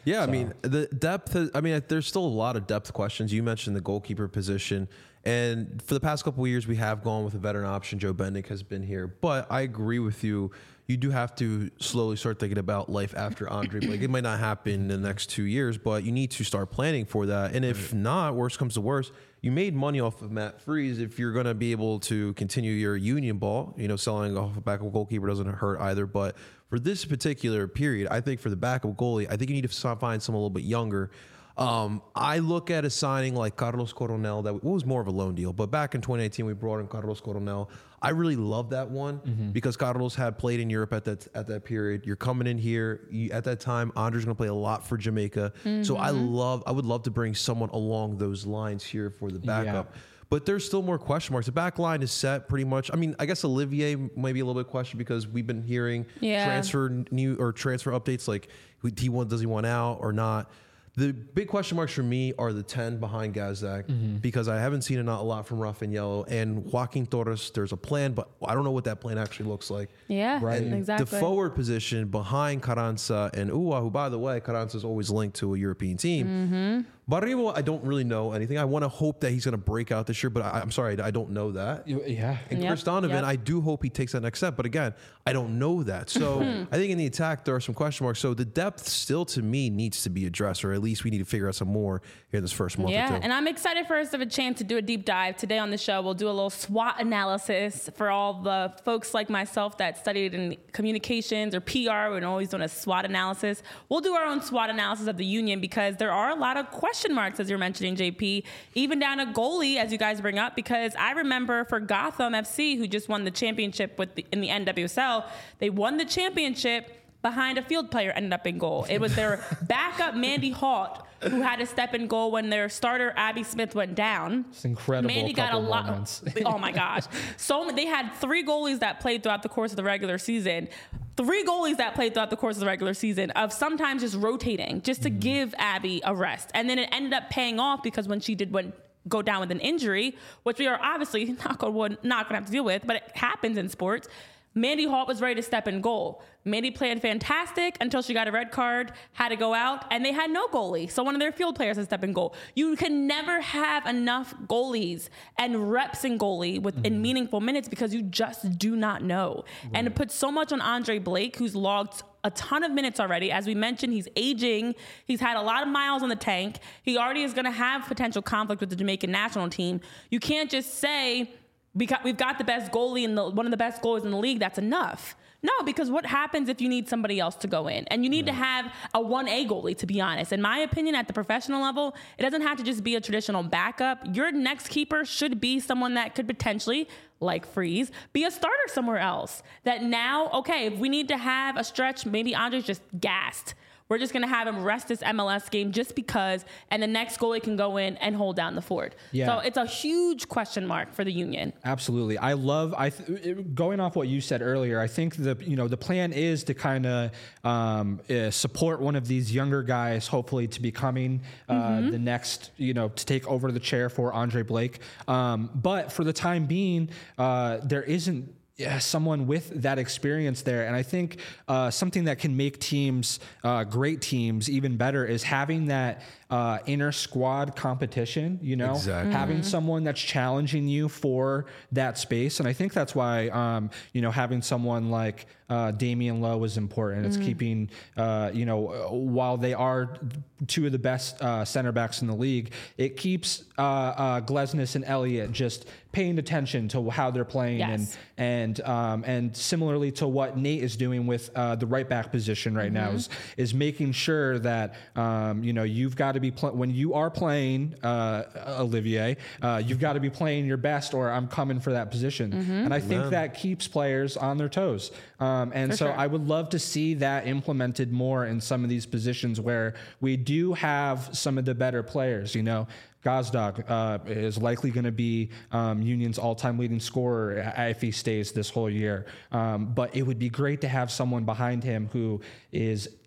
Yeah, So. I mean, the depth, has, I mean, there's still a lot of depth questions. You mentioned the goalkeeper position. And for the past couple of years, we have gone with a veteran option. Joe Bendick has been here. But I agree with you. You do have to slowly start thinking about life after Andre Blake. It might not happen in the next two years, but you need to start planning for that. And if not, worst comes to worst, you made money off of Matt Freese. If you're going to be able to continue your union ball, you know, selling off a backup goalkeeper doesn't hurt either. But for this particular period, I think for the backup goalie, I think you need to find someone a little bit younger. Um, I look at a signing like Carlos Coronel that was more of a loan deal, but back in twenty eighteen we brought in Carlos Coronel. I really love that one mm-hmm. because Carlos had played in Europe at that at that period. You're coming in here you, at that time. Andre's going to play a lot for Jamaica, mm-hmm. so I love. I would love to bring someone along those lines here for the backup. Yeah. But there's still more question marks. The back line is set pretty much. I mean, I guess Olivier might be a little bit questioned because we've been hearing yeah. transfer new or transfer updates like he want does he want out or not. The big question marks for me are the ten behind Gazdag mm-hmm. because I haven't seen a lot from Rafael and Joaquin Torres. There's a plan, but I don't know what that plan actually looks like. Yeah, right. And exactly. The forward position behind Carranza and Uwa, who, by the way, Carranza is always linked to a European team. Mm-hmm. Barribo, I don't really know anything. I want to hope that he's going to break out this year, but I, I'm sorry, I don't know that. Yeah. And yep. Chris Donovan, yep. I do hope he takes that next step, but again, I don't know that. So I think in the attack, there are some question marks. So the depth still, to me, needs to be addressed, or at least we need to figure out some more here in this first month yeah, or two. And I'm excited for us to have a chance to do a deep dive. Today on the show, we'll do a little SWOT analysis for all the folks like myself that studied in communications or P R and always doing a SWOT analysis. We'll do our own SWOT analysis of the Union because there are a lot of question marks, as you're mentioning, J P, even down to goalie, as you guys bring up, because I remember for Gotham F C, who just won the championship with the, in the N W S L, they won the championship behind a field player ended up in goal. It was their backup, Mandy Halt, who had to step in goal when their starter, Abby Smith, went down. It's incredible. Mandy got a lot. Oh, my gosh. So they had three goalies that played throughout the course of the regular season. Three goalies that played throughout the course of the regular season of sometimes just rotating just to mm. give Abby a rest. And then it ended up paying off because when she did went, go down with an injury, which we are obviously not going to have to deal with, but it happens in sports, Mandy Halt was ready to step in goal. Mandy played fantastic until she got a red card, had to go out, and they had no goalie. So one of their field players had to step in goal. You can never have enough goalies and reps in goalie with, mm-hmm. in meaningful minutes because you just do not know. Right. And it puts so much on Andre Blake, who's logged a ton of minutes already. As we mentioned, he's aging. He's had a lot of miles on the tank. He already is going to have potential conflict with the Jamaican national team. You can't just say, because we've got the best goalie and one of the best goalies in the league, that's enough. No, because what happens if you need somebody else to go in? And you need right. to have a one A goalie, to be honest. In my opinion, at the professional level, it doesn't have to just be a traditional backup. Your next keeper should be someone that could potentially, like Freese, be a starter somewhere else. That now, okay, if we need to have a stretch, maybe Andre's just gassed. We're just going to have him rest this M L S game just because, and the next goalie can go in and hold down the fort. Yeah. So it's a huge question mark for the Union. Absolutely. I love, I th- going off what you said earlier, I think the, you know, the plan is to kind of um, uh, support one of these younger guys, hopefully to becoming uh, mm-hmm. the next, you know, to take over the chair for Andre Blake. Um, but for the time being, uh, there isn't, Yeah, someone with that experience there. And I think uh, something that can make teams, uh, great teams, even better is having that uh, inner squad competition, you know, exactly. having mm-hmm. someone that's challenging you for that space. And I think that's why, um, you know, having someone like uh, Damian Lowe is important. Mm-hmm. It's keeping, uh, you know, while they are two of the best uh, center backs in the league, it keeps uh, uh, Glesnes and Elliott just paying attention to how they're playing. Yes. and and um, and similarly to what Nate is doing with uh, the right back position right mm-hmm. now is is making sure that um, you know, you've got to be pl- when you are playing uh, Olivier, uh, you've got to be playing your best, or I'm coming for that position. Mm-hmm. And I think yeah. that keeps players on their toes. Um, and for so sure. I would love to see that implemented more in some of these positions where we do have some of the better players. You know, Gazdag uh, is likely going to be um, Union's all-time leading scorer if he stays this whole year. Um, but it would be great to have someone behind him who is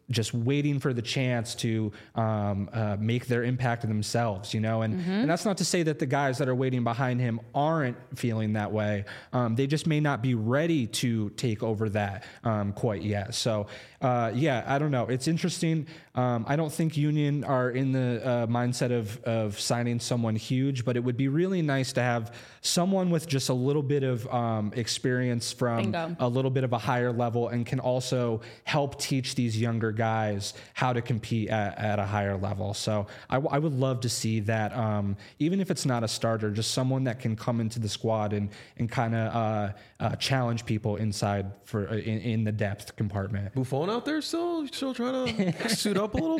just waiting for the chance to um, uh, make their impact themselves, you know, and, mm-hmm. and that's not to say that the guys that are waiting behind him aren't feeling that way. Um, they just may not be ready to take over that um, quite yet. So, uh, yeah, I don't know. It's interesting. Um, I don't think Union are in the uh, mindset of, of signing someone huge, but it would be really nice to have someone with just a little bit of um, experience from Bingo. a little bit of a higher level and can also help teach these younger guys how to compete at, at a higher level. So I, w- I would love to see that, um, even if it's not a starter, just someone that can come into the squad and, and kind of uh, uh, challenge people inside for uh, in, in the depth compartment. Buffon out there still still trying to suit up a little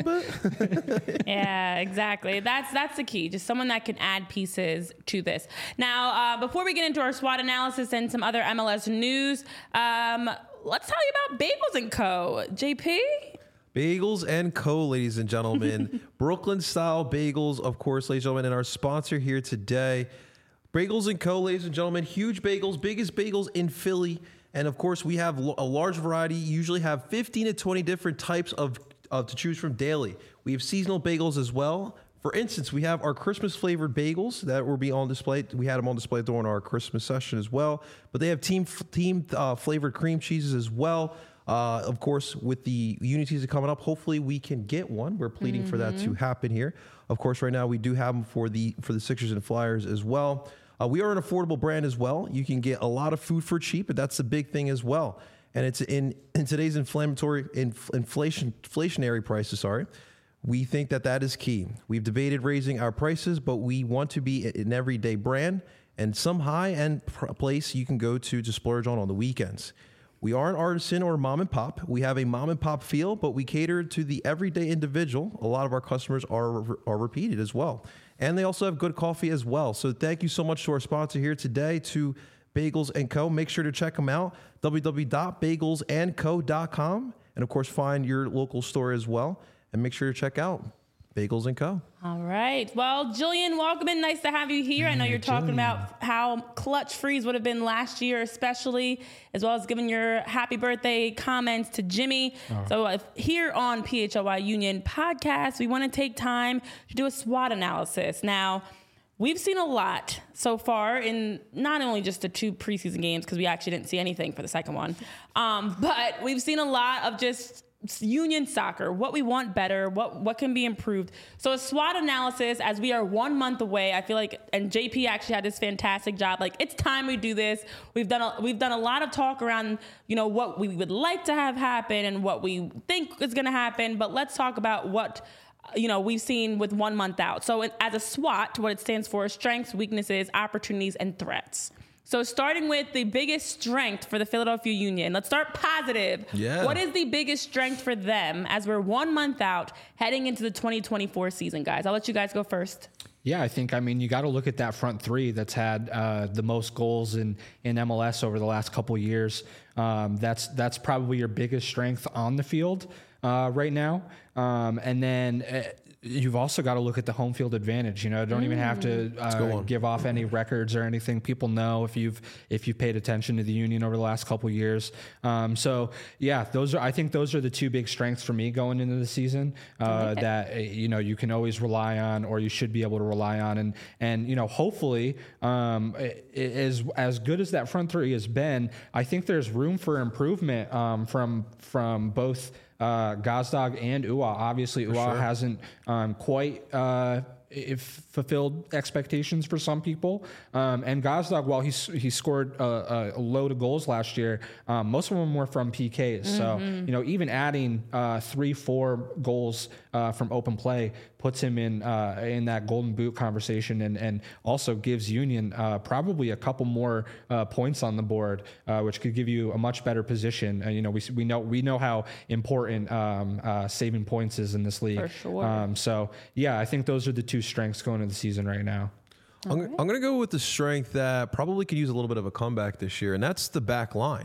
bit. Yeah, exactly. That's that's the key. Just someone that can add pieces to this. Now, uh, before we get into our SWOT analysis and some other M L S news, um, let's tell you about Bagels and Co. J P? Bagels and Co., ladies and gentlemen. Brooklyn-style bagels, of course, ladies and gentlemen, and our sponsor here today. Bagels and Co., ladies and gentlemen. Huge bagels, biggest bagels in Philly. And, of course, we have a large variety. You usually have fifteen to twenty different types of uh, to choose from daily. We have seasonal bagels as well. For instance, we have our Christmas-flavored bagels that will be on display. We had them on display during our Christmas session as well. But they have team team uh, flavored cream cheeses as well. Uh, of course, with the Union season coming up, hopefully we can get one. We're pleading mm-hmm. for that to happen here. Of course, right now we do have them for the for the Sixers and Flyers as well. Uh, we are an affordable brand as well. You can get a lot of food for cheap, but that's the big thing as well. And it's in, in today's inflammatory inf- inflation inflationary prices. Sorry. We think that that is key. We've debated raising our prices, but we want to be an everyday brand and some high-end pr- place you can go to to splurge on on the weekends. We are an artisan or mom and pop. We have a mom and pop feel, but we cater to the everyday individual. A lot of our customers are are repeated as well. And they also have good coffee as well. So thank you so much to our sponsor here today, to Bagels and Co. Make sure to check them out, w w w dot bagels and co dot com. And, of course, find your local store as well. And make sure to check out Bagels and Co. All right. Well, Jillian, welcome in. Nice to have you here. I know you're talking Jillian. about how clutch Freeze would have been last year, especially, as well as giving your happy birthday comments to Jimmy. Oh. So uh, here on P H L Y Union Podcast, we want to take time to do a SWOT analysis. Now, we've seen a lot so far in not only just the two preseason games, because we actually didn't see anything for the second one, um, but we've seen a lot of just Union soccer, what we want better, what what can be improved. So a SWOT analysis, as we are one month away, I feel like, and J P actually had this fantastic job. Like, it's time we do this. We've done a, we've done a lot of talk around, you know, what we would like to have happen and what we think is going to happen. But let's talk about what, you know, we've seen with one month out. So it, as a SWOT, what it stands for is strengths, weaknesses, opportunities, and threats. So starting with the biggest strength for the Philadelphia Union. Let's start positive. Yeah. What is the biggest strength for them as we're one month out heading into the twenty twenty-four season, guys? I'll let you guys go first. Yeah, I think, I mean, you got to look at that front three that's had uh, the most goals in, in M L S over the last couple of years. Um, that's that's probably your biggest strength on the field uh, right now. Um, and then uh, you've also got to look at the home field advantage. You know, don't mm. even have to uh, give off any records or anything. People know if you've if you've paid attention to the Union over the last couple of years. Um, so yeah, those are I think those are the two big strengths for me going into the season uh, okay. that you know you can always rely on, or you should be able to rely on, and and you know hopefully um, as as good as that front three has been, I think there's room for improvement um, from from both. Uh, Gazdag and Uwa. Obviously, Uwa sure. hasn't um, quite uh, if fulfilled expectations for some people. Um, and Gazdag, while he's, he scored a, a load of goals last year, um, most of them were from P Ks. Mm-hmm. So, you know, even adding uh, three, four goals uh, from open play puts him in uh, in that Golden Boot conversation, and, and also gives Union uh, probably a couple more uh, points on the board, uh, which could give you a much better position. Uh, you know, we we know we know how important um, uh, saving points is in this league. For sure. Um, so yeah, I think those are the two strengths going into the season right now. I'm, right. I'm going to go with the strength that probably could use a little bit of a comeback this year, and that's the back line.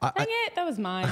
I, Dang it, that was mine.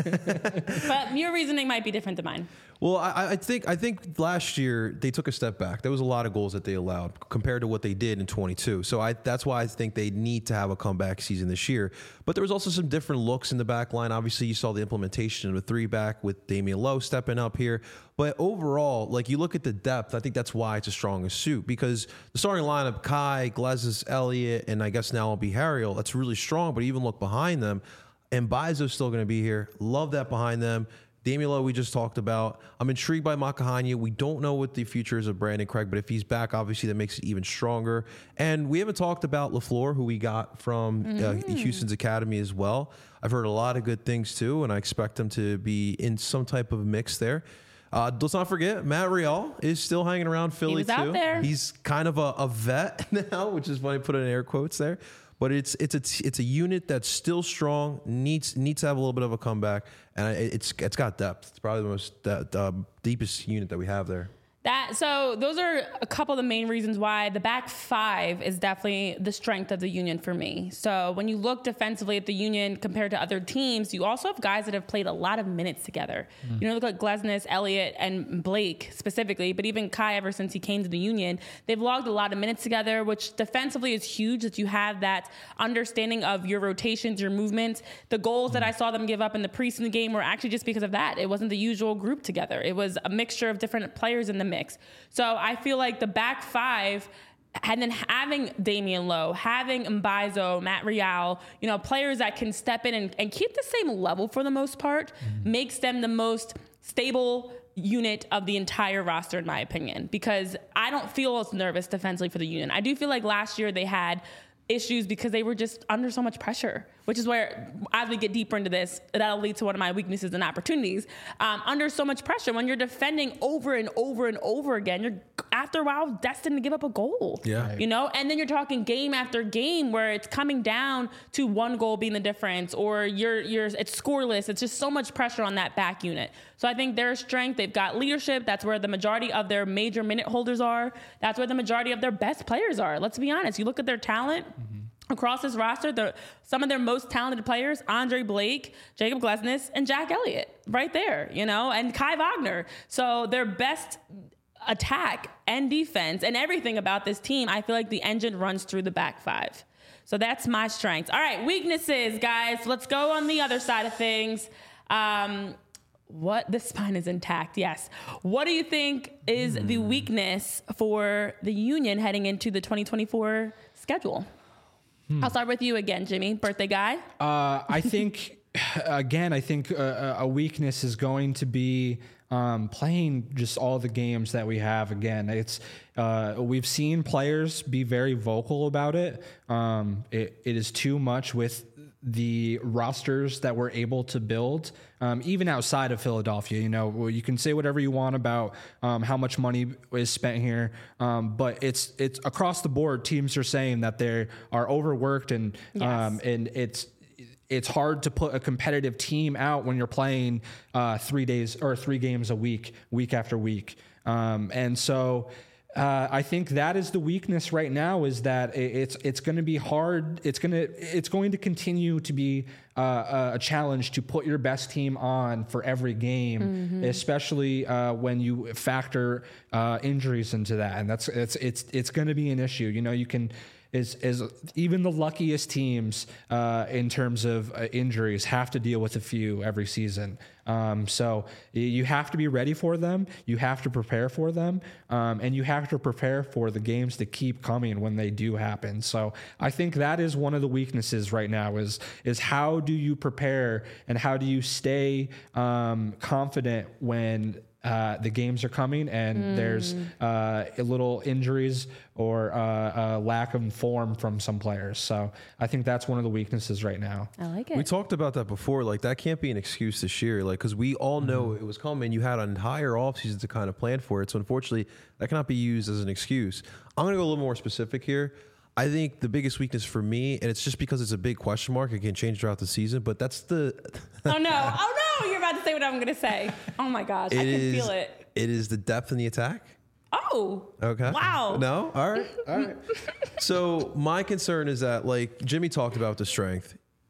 But your reasoning might be different than mine. Well, I, I think I think last year they took a step back. There was a lot of goals that they allowed compared to what they did in twenty-two. So I, that's why I think they need to have a comeback season this year. But there was also some different looks in the back line. Obviously, you saw the implementation of a three back with Damian Lowe stepping up here. But overall, like you look at the depth, I think that's why it's a stronger suit, because the starting lineup, Kai, Glezis, Elliott, and I guess now it'll be Harriel, that's really strong. But even look behind them, and Mbaizo's still going to be here. Love that behind them. Damian Lowe, we just talked about. I'm intrigued by Makahanya. We don't know what the future is of Brandon Craig, but if he's back, obviously that makes it even stronger. And we haven't talked about LaFleur, who we got from mm-hmm. uh, Houston's academy as well. I've heard a lot of good things too, and I expect him to be in some type of mix there. Uh, let's not forget, Matt Real is still hanging around Philly he was too. Out there. He's kind of a, a vet now, which is why I put in air quotes there. But it's it's a it's a unit that's still strong, needs needs to have a little bit of a comeback, and it's it's got depth. It's probably the most the, the deepest unit that we have there. That so those are a couple of the main reasons why the back five is definitely the strength of the Union for me. So when you look defensively at the Union compared to other teams, you also have guys that have played a lot of minutes together. Mm. You know, look at Glesnes, Elliott, and Blake specifically, but even Kai ever since he came to the Union, they've logged a lot of minutes together, which defensively is huge that you have that understanding of your rotations, your movements. The goals mm. that I saw them give up in the preseason game were actually just because of that. It wasn't the usual group together. It was a mixture of different players in the mix. So I feel like the back five, and then having Damian Lowe, having Mbaizo, Matt Real, you know, players that can step in and, and keep the same level for the most part, mm-hmm. makes them the most stable unit of the entire roster, in my opinion, because I don't feel as nervous defensively for the Union. I do feel like last year they had issues because they were just under so much pressure, which is where, as we get deeper into this, that'll lead to one of my weaknesses and opportunities. Um, under so much pressure, when you're defending over and over and over again, you're after a while destined to give up a goal. Yeah. You know, and then you're talking game after game where it's coming down to one goal being the difference, or you're you're it's scoreless. It's just so much pressure on that back unit. So I think their strength, they've got leadership. That's where the majority of their major minute holders are. That's where the majority of their best players are. Let's be honest. You look at their talent. Mm-hmm. Across this roster, the, some of their most talented players, Andre Blake, Jacob Glesnes, and Jack Elliott, right there, you know, and Kai Wagner. So their best attack and defense and everything about this team, I feel like the engine runs through the back five. So that's my strengths. All right, weaknesses, guys. Let's go on the other side of things. Um, what the spine is intact, yes. What do you think is mm. the weakness for the Union heading into the twenty twenty-four schedule? I'll start with you again, Jimmy, birthday guy. Uh, I think, again, I think a, a weakness is going to be um, playing just all the games that we have. Again, it's uh, we've seen players be very vocal about it. Um, it. It is too much with the rosters that we're able to build, um, even outside of Philadelphia. You know, you can say whatever you want about um, how much money is spent here, um, but it's it's across the board. Teams are saying that they are overworked, and yes. um, and it's it's hard to put a competitive team out when you're playing uh, three days or three games a week, week after week, um, and so. Uh, I think that is the weakness right now, is that it's it's going to be hard. It's going to it's going to continue to be uh, a challenge to put your best team on for every game, mm-hmm. especially uh, when you factor uh, injuries into that, and that's it's it's it's going to be an issue. You know, you can. Is, is even the luckiest teams uh, in terms of uh, injuries have to deal with a few every season. Um, so you have to be ready for them. You have to prepare for them. Um, and you have to prepare for the games to keep coming when they do happen. So I think that is one of the weaknesses right now is, is how do you prepare and how do you stay um, confident when Uh, the games are coming and mm. there's uh, a little injuries or uh, a lack of form from some players. So I think that's one of the weaknesses right now. I like it. We talked about that before. Like, that can't be an excuse this year. Like, because we all know mm. it was coming. You had an entire offseason to kind of plan for it. So unfortunately, that cannot be used as an excuse. I'm going to go a little more specific here. I think the biggest weakness for me, and it's just because it's a big question mark, it can change throughout the season, but that's the... oh, no. Oh, no. You're about to say what I'm going to say. Oh, my gosh. It I can is, feel it. It is the depth in the attack. Oh. Okay. Wow. No? All right. All right. So my concern is that, like Jimmy talked about the strength.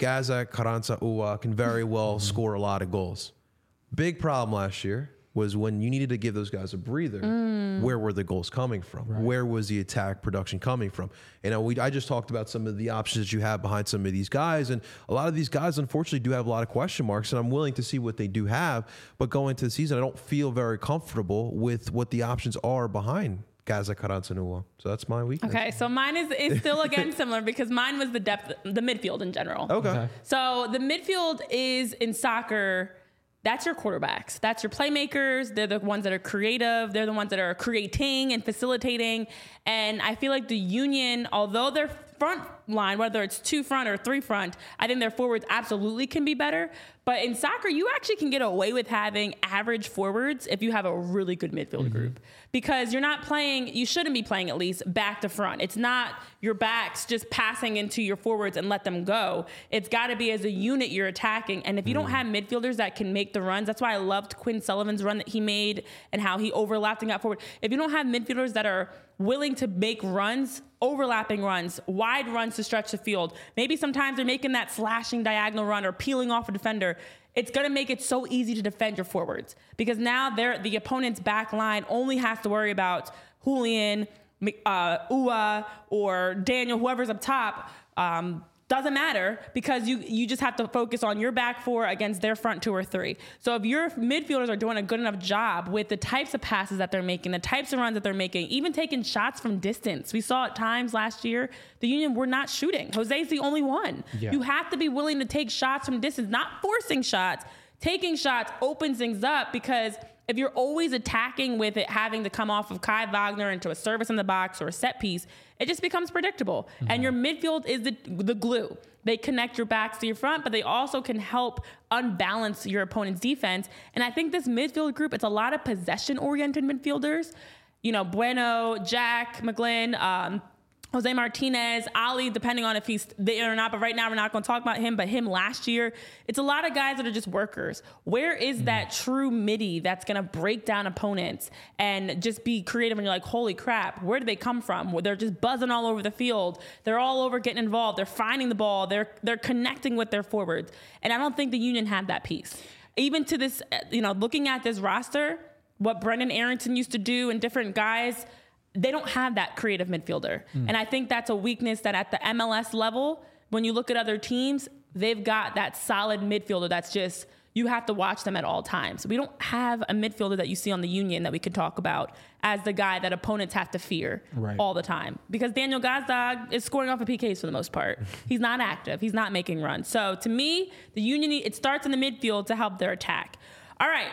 Gaza, Carranza, Ua can very well mm-hmm. score a lot of goals. Big problem last year was when you needed to give those guys a breather, mm. where were the goals coming from? Right. Where was the attack production coming from? And we, I just talked about some of the options that you have behind some of these guys. And a lot of these guys, unfortunately, do have a lot of question marks. And I'm willing to see what they do have. But going into the season, I don't feel very comfortable with what the options are behind Gaza, Carranza, and Ua. So that's my weakness. Okay, so mine is, is still, again, similar because mine was the depth, the midfield in general. Okay. okay. So the midfield is, in soccer, that's your quarterbacks. That's your playmakers. They're the ones that are creative. They're the ones that are creating and facilitating. And I feel like the Union, although their front line, whether it's two front or three front, I think their forwards absolutely can be better. But in soccer, you actually can get away with having average forwards if you have a really good midfield mm-hmm. group. Because you're not playing, you shouldn't be playing at least back to front. It's not your backs just passing into your forwards and let them go. It's got to be as a unit you're attacking. And if you mm. don't have midfielders that can make the runs, that's why I loved Quinn Sullivan's run that he made and how he overlapped and got forward. If you don't have midfielders that are willing to make runs, overlapping runs, wide runs to stretch the field, maybe sometimes they're making that slashing diagonal run or peeling off a defender, it's going to make it so easy to defend your forwards because now they're, the opponent's back line only has to worry about Julian, uh, Ua, or Daniel, whoever's up top. Um, doesn't matter because you you just have to focus on your back four against their front two or three. So if your midfielders are doing a good enough job with the types of passes that they're making, the types of runs that they're making, even taking shots from distance. We saw at times last year, the Union were not shooting. Jose's the only one. Yeah. You have to be willing to take shots from distance, not forcing shots. Taking shots opens things up because if you're always attacking with it having to come off of Kai Wagner into a service in the box or a set piece, it just becomes predictable. Mm-hmm. And your midfield is the the glue. They connect your backs to your front, but they also can help unbalance your opponent's defense. And I think this midfield group, it's a lot of possession-oriented midfielders. You know, Bueno, Jack McGlynn, um, Jose Martinez, Ali, depending on if he's there or not. But right now, we're not going to talk about him. But him last year, it's a lot of guys that are just workers. Where is mm. that true midi that's going to break down opponents and just be creative? And you're like, holy crap, where do they come from? Where they're just buzzing all over the field. They're all over getting involved. They're finding the ball. They're they're connecting with their forwards. And I don't think the Union had that piece. Even to this, you know, looking at this roster, what Brendan Arrington used to do and different guys, they don't have that creative midfielder. Mm. And I think that's a weakness that at the M L S level, when you look at other teams, they've got that solid midfielder that's just, you have to watch them at all times. We don't have a midfielder that you see on the Union that we could talk about as the guy that opponents have to fear right. all the time. Because Daniel Gazdag is scoring off of P Ks for the most part. He's not active. He's not making runs. So to me, the Union, it starts in the midfield to help their attack. All right.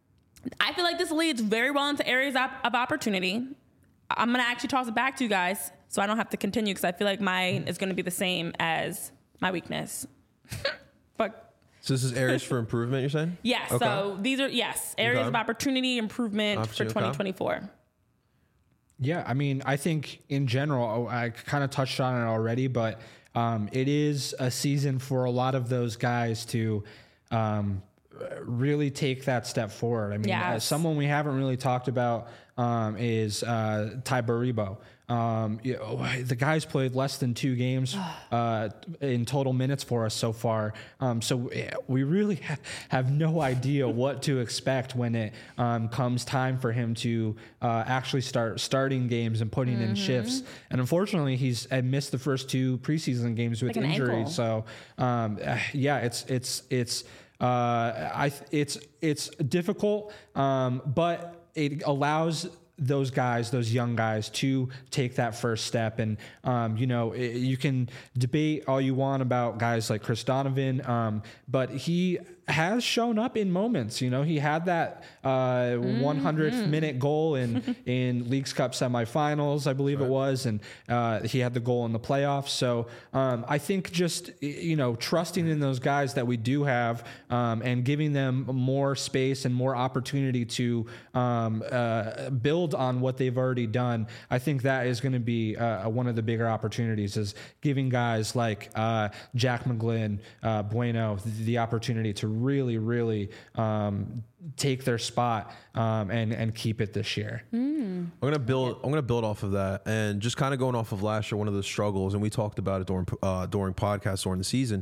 I feel like this leads very well into areas of, of opportunity. I'm going to actually toss it back to you guys so I don't have to continue because I feel like mine is going to be the same as my weakness. But so this is areas for improvement, you're saying? Yes. Okay. So these are, yes, areas okay. of opportunity improvement Opportunity, for twenty twenty-four. Okay. Yeah, I mean, I think in general, I kind of touched on it already, but um, it is a season for a lot of those guys to um, really take that step forward. I mean, yes. as someone we haven't really talked about um, is uh, Ty Baribo. Um, you know, the guy's played less than two games uh, in total minutes for us so far. Um, so we really ha- have no idea what to expect when it um, comes time for him to uh, actually start starting games and putting mm-hmm. in shifts. And unfortunately, he's had missed the first two preseason games with like injury. So um, yeah, it's it's it's uh, I it's it's difficult, um, but it allows those guys, those young guys, to take that first step. And, um, you know, it, you can debate all you want about guys like Chris Donovan, um, but he has shown up in moments. You know, he had that uh, mm-hmm. one hundredth minute goal in, in Leagues Cup semifinals, I believe right. it was, and uh, he had the goal in the playoffs. So um, I think just, you know, trusting in those guys that we do have um, and giving them more space and more opportunity to um, uh, build on what they've already done, I think that is going to be uh, one of the bigger opportunities, is giving guys like uh, Jack McGlynn, uh, Bueno, the, the opportunity to really, really um, take their spot um, and and keep it this year. Mm. I'm gonna build. I'm gonna build off of that, and just kind of going off of last year. One of the struggles, and we talked about it during uh, during podcasts during the season,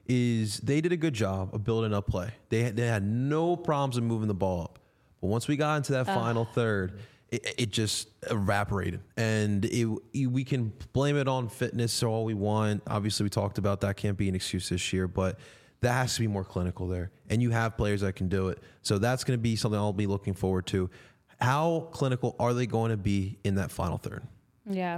is they did a good job of building up play. They had, they had no problems in moving the ball up. But once we got into that uh. final third, it, it just evaporated. And it, it, we can blame it on fitness all we want. Obviously, we talked about that can't be an excuse this year, but that has to be more clinical there. And you have players that can do it. So that's going to be something I'll be looking forward to. How clinical are they going to be in that final third? Yeah.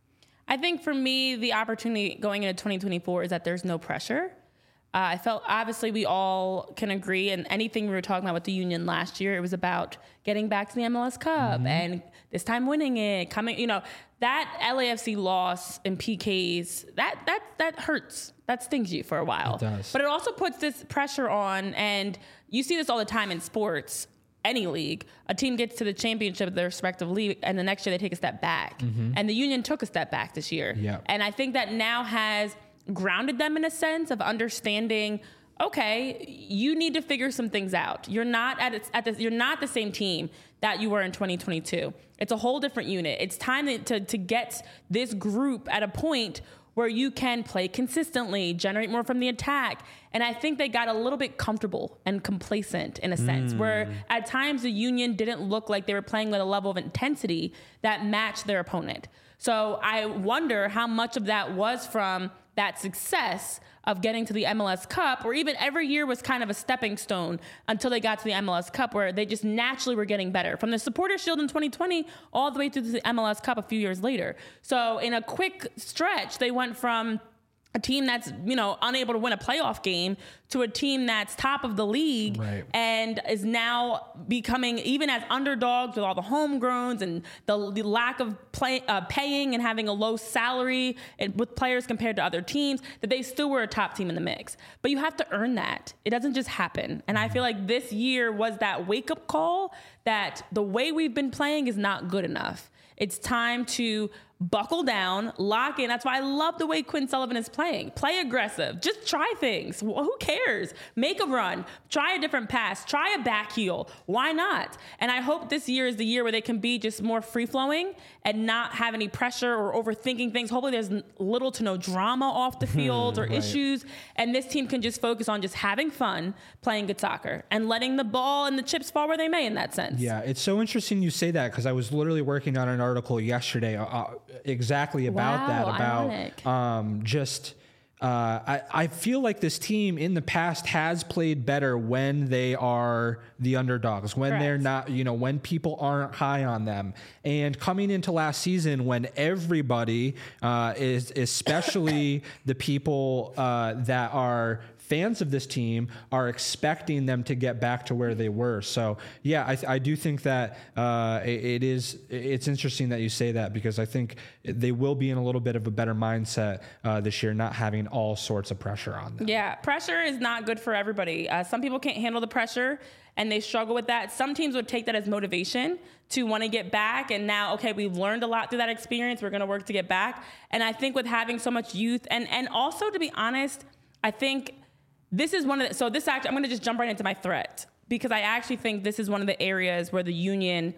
I think for me, the opportunity going into twenty twenty-four is that there's no pressure. Uh, I felt obviously we all can agree, and anything we were talking about with the Union last year, it was about getting back to the M L S Cup mm-hmm. and this time winning it, coming, you know, that L A F C loss in P Ks, that that that hurts. That stings you for a while. It does. But it also puts this pressure on, and you see this all the time in sports. Any league, a team gets to the championship of their respective league, and the next year they take a step back. Mm-hmm. And the Union took a step back this year. Yeah. And I think that now has grounded them in a sense of understanding, okay, you need to figure some things out. You're not at its, at this, you're not the same team that you were in twenty twenty-two. It's a whole different unit. It's time to, to, to get this group at a point where you can play consistently, generate more from the attack. And I think they got a little bit comfortable and complacent in a sense, mm. where at times the Union didn't look like they were playing with a level of intensity that matched their opponent. So I wonder how much of that was from that success of getting to the M L S Cup, or even every year was kind of a stepping stone until they got to the M L S Cup, where they just naturally were getting better. From the Supporters Shield in twenty twenty all the way through the M L S Cup a few years later. So in a quick stretch, they went from a team that's, you know, unable to win a playoff game to a team that's top of the league right. and is now becoming, even as underdogs with all the homegrowns and the, the lack of play, uh, paying and having a low salary and with players compared to other teams, that they still were a top team in the mix. But you have to earn that. It doesn't just happen. And I feel like this year was that wake-up call that the way we've been playing is not good enough. It's time to buckle down, lock in. That's why I love the way Quinn Sullivan is playing. Play aggressive. Just try things. Well, who cares? Make a run. Try a different pass. Try a back heel. Why not? And I hope this year is the year where they can be just more free-flowing and not have any pressure or overthinking things. Hopefully there's little to no drama off the field or right. issues. And this team can just focus on just having fun, playing good soccer, and letting the ball and the chips fall where they may in that sense. Yeah, it's so interesting you say that, because I was literally working on an article yesterday uh, exactly about wow, that, about ironic. um, just... Uh, I, I feel like this team in the past has played better when they are the underdogs, when Correct. they're not, you know, when people aren't high on them. And coming into last season, when everybody uh, is, especially the people uh, that are fans of this team, are expecting them to get back to where they were. So yeah, I, I do think that uh, it, it is, it's interesting that you say that, because I think they will be in a little bit of a better mindset uh, this year, not having all sorts of pressure on them. Yeah, pressure is not good for everybody. Uh, some people can't handle the pressure and they struggle with that. Some teams would take that as motivation to want to get back. And now, okay, we've learned a lot through that experience. We're going to work to get back. And I think with having so much youth, and, and also, to be honest, I think this is one of the, so this actually, I'm going to just jump right into my threat, because I actually think this is one of the areas where the Union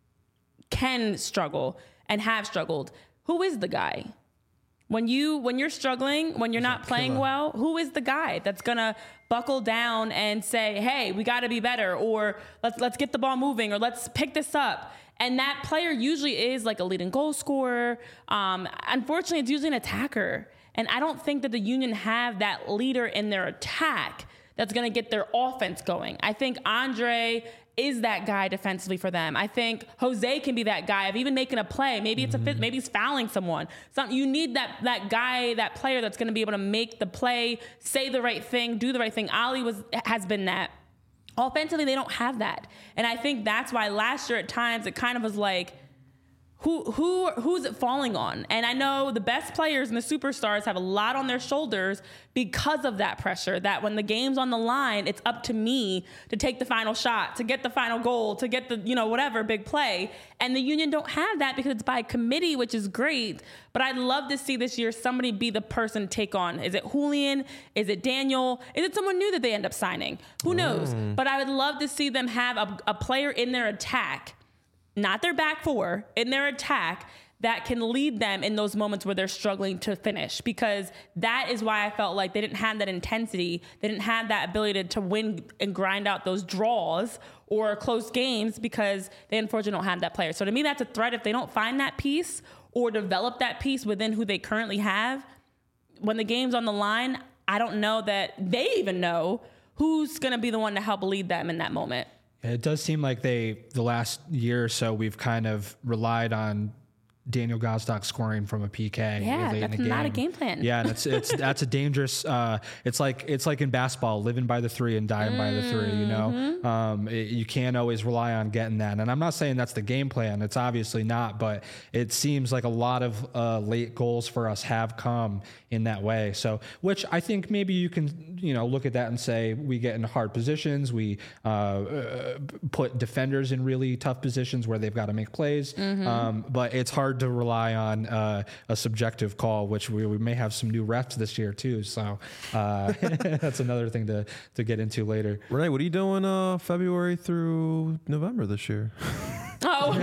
can struggle and have struggled. Who is the guy? When you, when you're struggling, when you're not playing well, who is the guy that's going to buckle down and say, hey, we got to be better, or let's, let's get the ball moving, or let's pick this up? And that player usually is like a leading goal scorer. Um, unfortunately, it's usually an attacker. And I don't think that the Union have that leader in their attack that's going to get their offense going. I think Andre is that guy defensively for them. I think Jose can be that guy of even making a play. Maybe it's a fit, maybe he's fouling someone. So you need that that guy, that player that's going to be able to make the play, say the right thing, do the right thing. Ali was has been that. Offensively, they don't have that. And I think that's why last year at times it kind of was like, Who who who's it falling on? And I know the best players and the superstars have a lot on their shoulders because of that pressure, that when the game's on the line, it's up to me to take the final shot, to get the final goal, to get the, you know, whatever, big play. And the Union don't have that because it's by committee, which is great. But I'd love to see this year somebody be the person to take on. Is it Julian? Is it Daniel? Is it someone new that they end up signing? Who knows? Mm. But I would love to see them have a, a player in their attack, not their back four, in their attack, that can lead them in those moments where they're struggling to finish, because that is why I felt like they didn't have that intensity. They didn't have that ability to, to win and grind out those draws or close games, because they unfortunately don't have that player. So to me, that's a threat. If they don't find that piece or develop that piece within who they currently have, when the game's on the line, I don't know that they even know who's going to be the one to help lead them in that moment. It does seem like they, the last year or so, we've kind of relied on Daniel Gazdag scoring from a P K. Yeah, late that's in the game. not a game plan. Yeah, and it's it's that's a dangerous. Uh, it's like it's like in basketball, living by the three and dying mm-hmm. by the three. You know, um, it, you can't always rely on getting that. And I'm not saying that's the game plan. It's obviously not, but it seems like a lot of uh, late goals for us have come in that way. So, which I think maybe you can you know look at that and say we get in hard positions. We uh, uh, put defenders in really tough positions where they've got to make plays. Mm-hmm. Um, but it's hard to rely on uh, a subjective call, which we, we may have some new refs this year too. So uh, that's another thing to to get into later. Renee, what are you doing uh, February through November this year? Oh,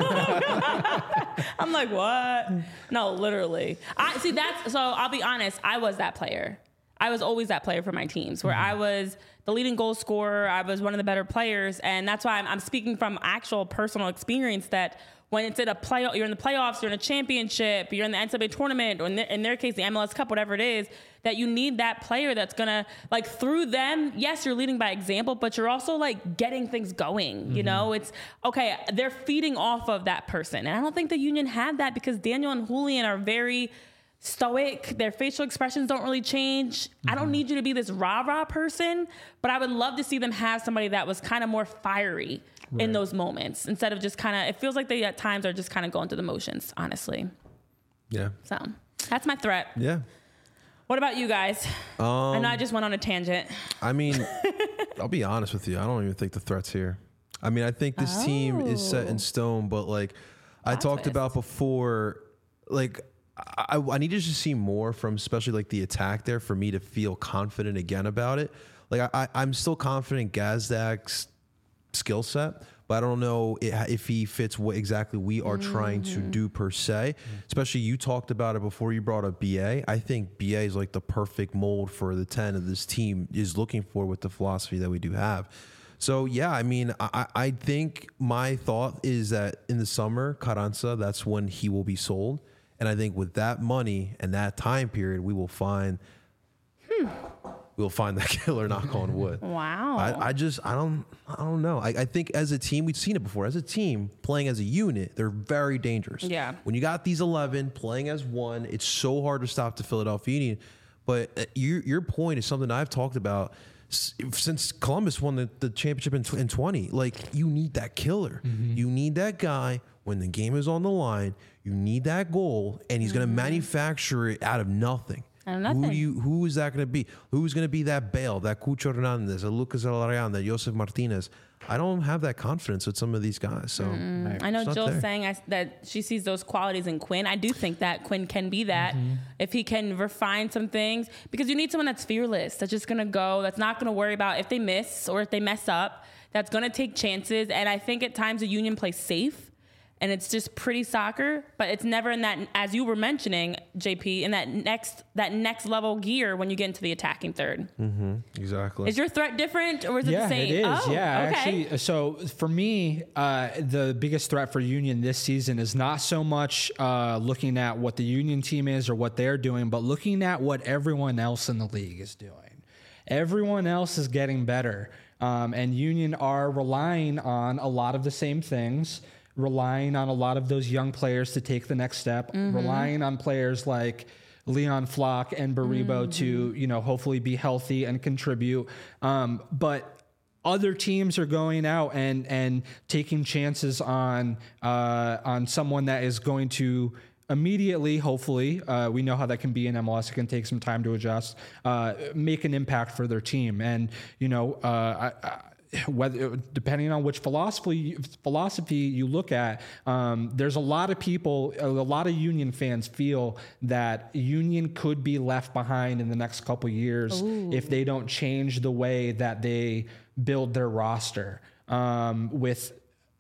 I'm like, what? No, literally. I see that's so. I'll be honest. I was that player. I was always that player for my teams, where mm-hmm. I was the leading goal scorer. I was one of the better players, and that's why I'm, I'm speaking from actual personal experience that. When it's in a play, you're in the playoffs, you're in a championship, you're in the N C double A tournament, or in, the, in their case, the M L S Cup, whatever it is, that you need that player that's gonna, like, through them, yes, you're leading by example, but you're also, like, getting things going, mm-hmm. you know? It's, okay, they're feeding off of that person. And I don't think the Union had that, because Daniel and Julian are very stoic. Their facial expressions don't really change. Mm-hmm. I don't need you to be this rah-rah person, but I would love to see them have somebody that was kind of more fiery. Right. In those moments, instead of just kind of, it feels like they at times are just kind of going through the motions, honestly. Yeah. So that's my threat. Yeah. What about you guys? Um, I know I just went on a tangent. I mean, I'll be honest with you. I don't even think the threat's here. I mean, I think this oh. team is set in stone, but like I That's talked about before, like I, I need to just see more from especially like the attack there for me to feel confident again about it. Like I, I, I'm still confident Gazdag's skill set, but I don't know if he fits what exactly we are mm-hmm. trying to do per se. Mm-hmm. Especially you talked about it before you brought up B A. I think B A is like the perfect mold for the ten of this team is looking for with the philosophy that we do have. So yeah, I mean, I, I think my thought is that in the summer, Carranza, that's when he will be sold. And I think with that money and that time period, we will find hmm. we'll find that killer, knock on wood. Wow. I, I just, I don't, I don't know. I, I think as a team, we've seen it before. As a team playing as a unit, they're very dangerous. Yeah. When you got these eleven playing as one, it's so hard to stop the Philadelphia Union. But uh, your your point is something I've talked about s- since Columbus won the, the championship in, tw- in twenty. Like, you need that killer. Mm-hmm. You need that guy when the game is on the line. You need that goal, and he's mm-hmm. going to manufacture it out of nothing. Who do you? Who is that going to be? Who's going to be that Bale, that Cucho Hernandez, that Lucas Alarian, that Josef Martinez? I don't have that confidence with some of these guys. So mm-hmm. right. I know Jill's saying I, that she sees those qualities in Quinn. I do think that Quinn can be that mm-hmm. if he can refine some things, because you need someone that's fearless, that's just going to go, that's not going to worry about if they miss or if they mess up, that's going to take chances. And I think at times the Union plays safe. And it's just pretty soccer, but it's never in that, as you were mentioning, J P, in that next that next level gear when you get into the attacking third. Mm-hmm. Exactly. Is your threat different, or is it yeah, the same? It is. Oh, yeah, okay. actually. So for me, uh, the biggest threat for Union this season is not so much uh, looking at what the Union team is or what they're doing, but looking at what everyone else in the league is doing. Everyone else is getting better, um, and Union are relying on a lot of the same things. Relying on a lot of those young players to take the next step, mm-hmm. relying on players like Leon Flock and Baribo mm-hmm. to, you know, hopefully be healthy and contribute. Um, but other teams are going out and and taking chances on uh, on someone that is going to immediately, hopefully, uh, we know how that can be in M L S. It can take some time to adjust, uh, make an impact for their team. And, you know, uh, I, I whether depending on which philosophy philosophy you look at, um, there's a lot of people, a lot of Union fans feel that Union could be left behind in the next couple years Ooh. If they don't change the way that they build their roster. Um, with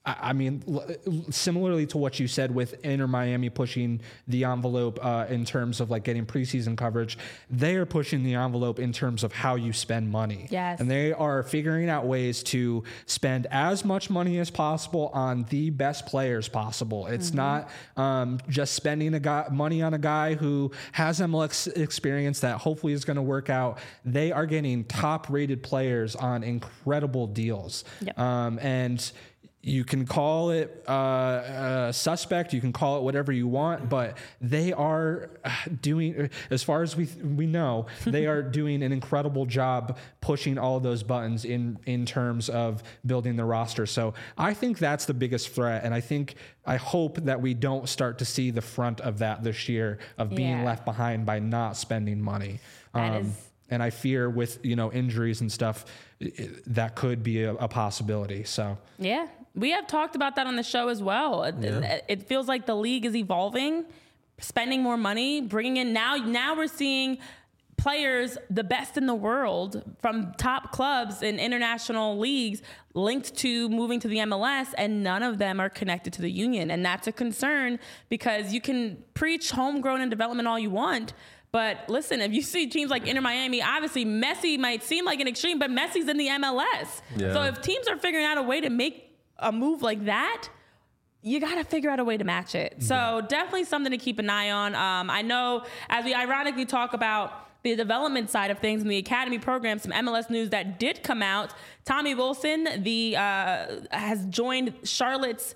I mean, similarly to what you said with Inter Miami pushing the envelope uh, in terms of like getting preseason coverage, they are pushing the envelope in terms of how you spend money. Yes. And they are figuring out ways to spend as much money as possible on the best players possible. It's mm-hmm. not um, just spending a guy, money on a guy who has M L S experience that hopefully is going to work out. They are getting top-rated players on incredible deals. Yep. Um, and you can call it uh, uh, suspect, you can call it whatever you want, but they are doing, as far as we we know, they are doing an incredible job pushing all of those buttons in in terms of building the roster. So I think that's the biggest threat, and I think I hope that we don't start to see the front of that this year of being Yeah. left behind by not spending money. That Um, is- and I fear with you know injuries and stuff, it, that could be a, a possibility. So. Yeah, we have talked about that on the show as well. It, Yeah. it feels like the league is evolving, spending more money, bringing in now. Now we're seeing players, the best in the world from top clubs in international leagues, linked to moving to the M L S, and none of them are connected to the union, and that's a concern because you can preach homegrown and development all you want. But listen, if you see teams like Inter Miami, obviously Messi might seem like an extreme, but Messi's in the M L S. Yeah. So if teams are figuring out a way to make a move like that, you got to figure out a way to match it. So yeah. definitely something to keep an eye on. Um, I know as we ironically talk about the development side of things in the academy program, some M L S news that did come out. Tommy Wilson, the uh, has joined Charlotte's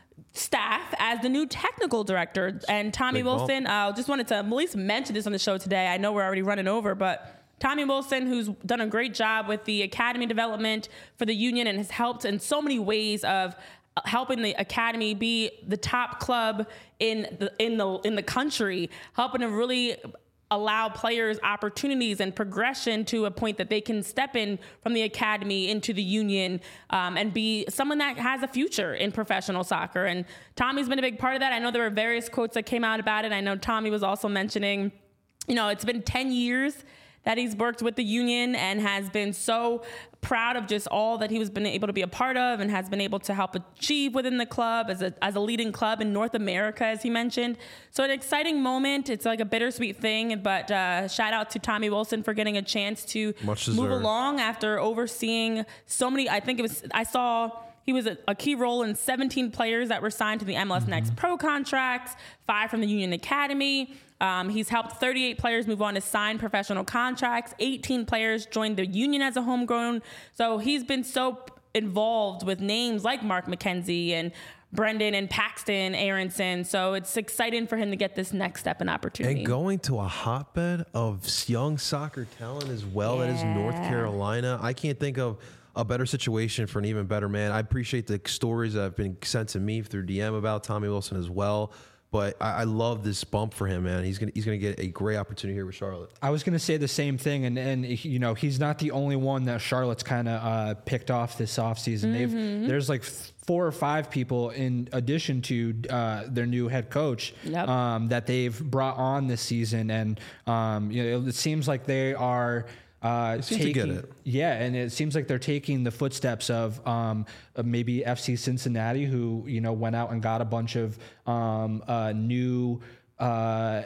staff as the new technical director. And Tommy Big Wilson, uh, just wanted to at least mention this on the show today. I know we're already running over, but Tommy Wilson, who's done a great job with the academy development for the union and has helped in so many ways of helping the academy be the top club in the in the in the country, helping to really allow players opportunities and progression to a point that they can step in from the academy into the union um, and be someone that has a future in professional soccer. And Tommy's been a big part of that. I know there were various quotes that came out about it. I know Tommy was also mentioning, you know, it's been ten years that he's worked with the union and has been so proud of just all that he was been able to be a part of and has been able to help achieve within the club as a as a leading club in North America, as he mentioned. So an exciting moment. It's like a bittersweet thing, but uh, shout out to Tommy Wilson for getting a chance to Much move deserved. along after overseeing so many. I think it was, I saw he was a, a key role in seventeen players that were signed to the M L S mm-hmm. Next Pro contracts, five from the Union Academy. Um, he's helped thirty-eight players move on to sign professional contracts. eighteen players joined the union as a homegrown. So he's been so involved with names like Mark McKenzie and Brendan and Paxton Aronson. So it's exciting for him to get this next step and opportunity. And going to a hotbed of young soccer talent as well, that is North Carolina. I can't think of a better situation for an even better man. I appreciate the stories that have been sent to me through D M about Tommy Wilson as well. But I, I love this bump for him, man. He's gonna he's gonna get a great opportunity here with Charlotte. I was gonna say the same thing, and and you know he's not the only one that Charlotte's kind of uh, picked off this offseason. Mm-hmm. They've there's like four or five people in addition to uh, their new head coach yep. um, that they've brought on this season, and um, you know it seems like they are. Uh, seem taking, to get it. Yeah, and it seems like they're taking the footsteps of, um, of maybe F C Cincinnati, who you know went out and got a bunch of um, uh, new uh,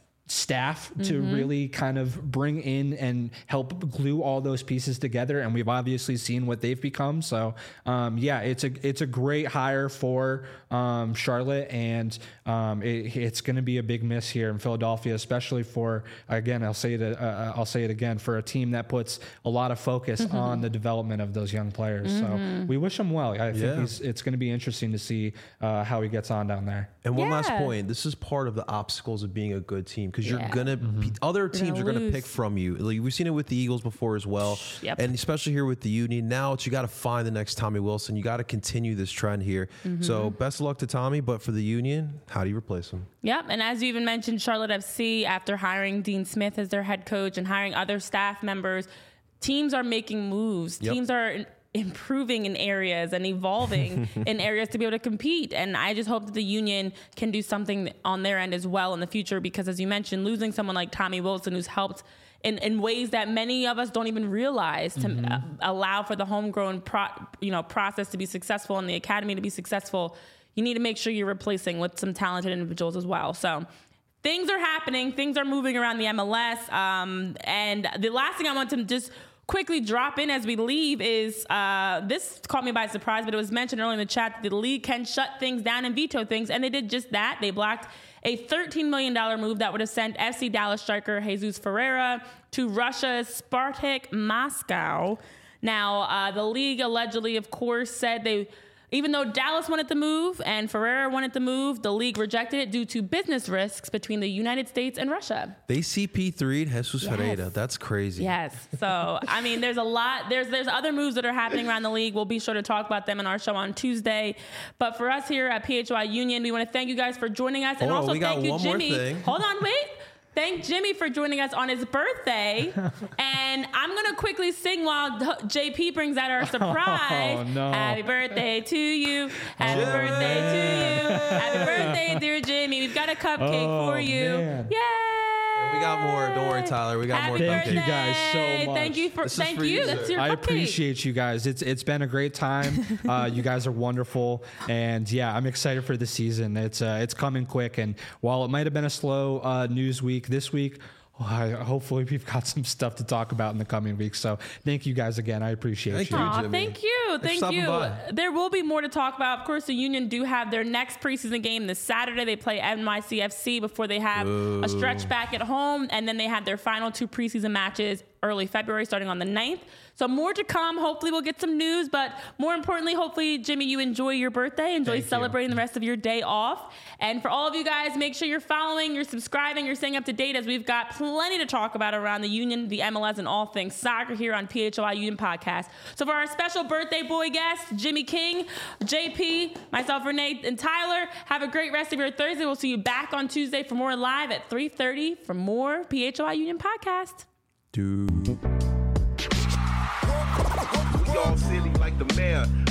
staff mm-hmm. to really kind of bring in and help glue all those pieces together. And we've obviously seen what they've become. So um, yeah, it's a it's a great hire for um, Charlotte, and um, it, it's going to be a big miss here in Philadelphia, especially for, again, I'll say it uh, I'll say it again, for a team that puts a lot of focus mm-hmm. on the development of those young players. Mm-hmm. So we wish him well. I think yeah. he's, it's going to be interesting to see uh, how he gets on down there. And one yeah. last point: this is part of the obstacles of being a good team, because you're Yeah. gonna Mm-hmm. other teams gonna are gonna lose. pick from you. Like, we've seen it with the Eagles before as well, Yep. and especially here with the Union. Now it's, you got to find the next Tommy Wilson. You got to continue this trend here. Mm-hmm. So best of luck to Tommy. But for the Union, how do you replace him? Yep, and as you even mentioned, Charlotte F C, after hiring Dean Smith as their head coach and hiring other staff members, teams are making moves. Yep. Teams are improving in areas and evolving in areas to be able to compete. And I just hope that the union can do something on their end as well in the future, because as you mentioned, losing someone like Tommy Wilson, who's helped in, in ways that many of us don't even realize to mm-hmm. uh, allow for the homegrown pro, you know, process to be successful and the academy to be successful, you need to make sure you're replacing with some talented individuals as well. So things are happening. Things are moving around the M L S. Um, and the last thing I want to just quickly drop in as we leave is, uh, this caught me by surprise, but it was mentioned earlier in the chat that the league can shut things down and veto things, and they did just that. They blocked a thirteen million dollars move that would have sent F C Dallas striker Jesus Ferreira to Russia's Spartak Moscow. Now, uh, the league allegedly, of course, said they... Even though Dallas wanted the move and Ferreira wanted the move, the league rejected it due to business risks between the United States and Russia. They C P three'd Jesus yes. Ferreira. That's crazy. Yes. So, I mean, there's a lot. There's there's other moves that are happening around the league. We'll be sure to talk about them in our show on Tuesday. But for us here at P H Y Union, we want to thank you guys for joining us. And oh, also we got thank you, one Jimmy. More thing. Hold on, wait. Thank Jimmy for joining us on his birthday. And I'm going to quickly sing while J P brings out our surprise. Oh, no. Happy birthday to you. Happy Jimmy. birthday to you. Happy birthday, dear Jimmy. We've got a cupcake oh, for you. Man. Yay. We got more. Don't worry, Tyler. We got Happy more. Thank cupcakes. you guys so much. Thank you for. This is thank for you. you, That's sir. your I cupcake. appreciate you guys. It's it's been a great time. Uh, you guys are wonderful, and yeah, I'm excited for the season. It's uh, it's coming quick, and while it might have been a slow uh, news week this week, well, I, hopefully we've got some stuff to talk about in the coming weeks. So thank you guys again. I appreciate Thank you. you. Aw, Jimmy. thank you. Thanks Thank for you. stopping by. There will be more to talk about. Of course, the Union do have their next preseason game this Saturday. They play N Y C F C before they have Ooh. a stretch back at home. And then they have their final two preseason matches early February, starting on the ninth. So more to come. Hopefully we'll get some news. But more importantly, hopefully, Jimmy, you enjoy your birthday. Enjoy Thank celebrating you. the rest of your day off. And for all of you guys, make sure you're following, you're subscribing, you're staying up to date, as we've got plenty to talk about around the Union, the M L S, and all things soccer here on P H O I Union Podcast. So for our special birthday boy guest, Jimmy King, J P, myself, Renee, and Tyler, have a great rest of your Thursday. We'll see you back on Tuesday for more live at three thirty for more P H O I Union Podcast. Dude. We all silly like the mayor.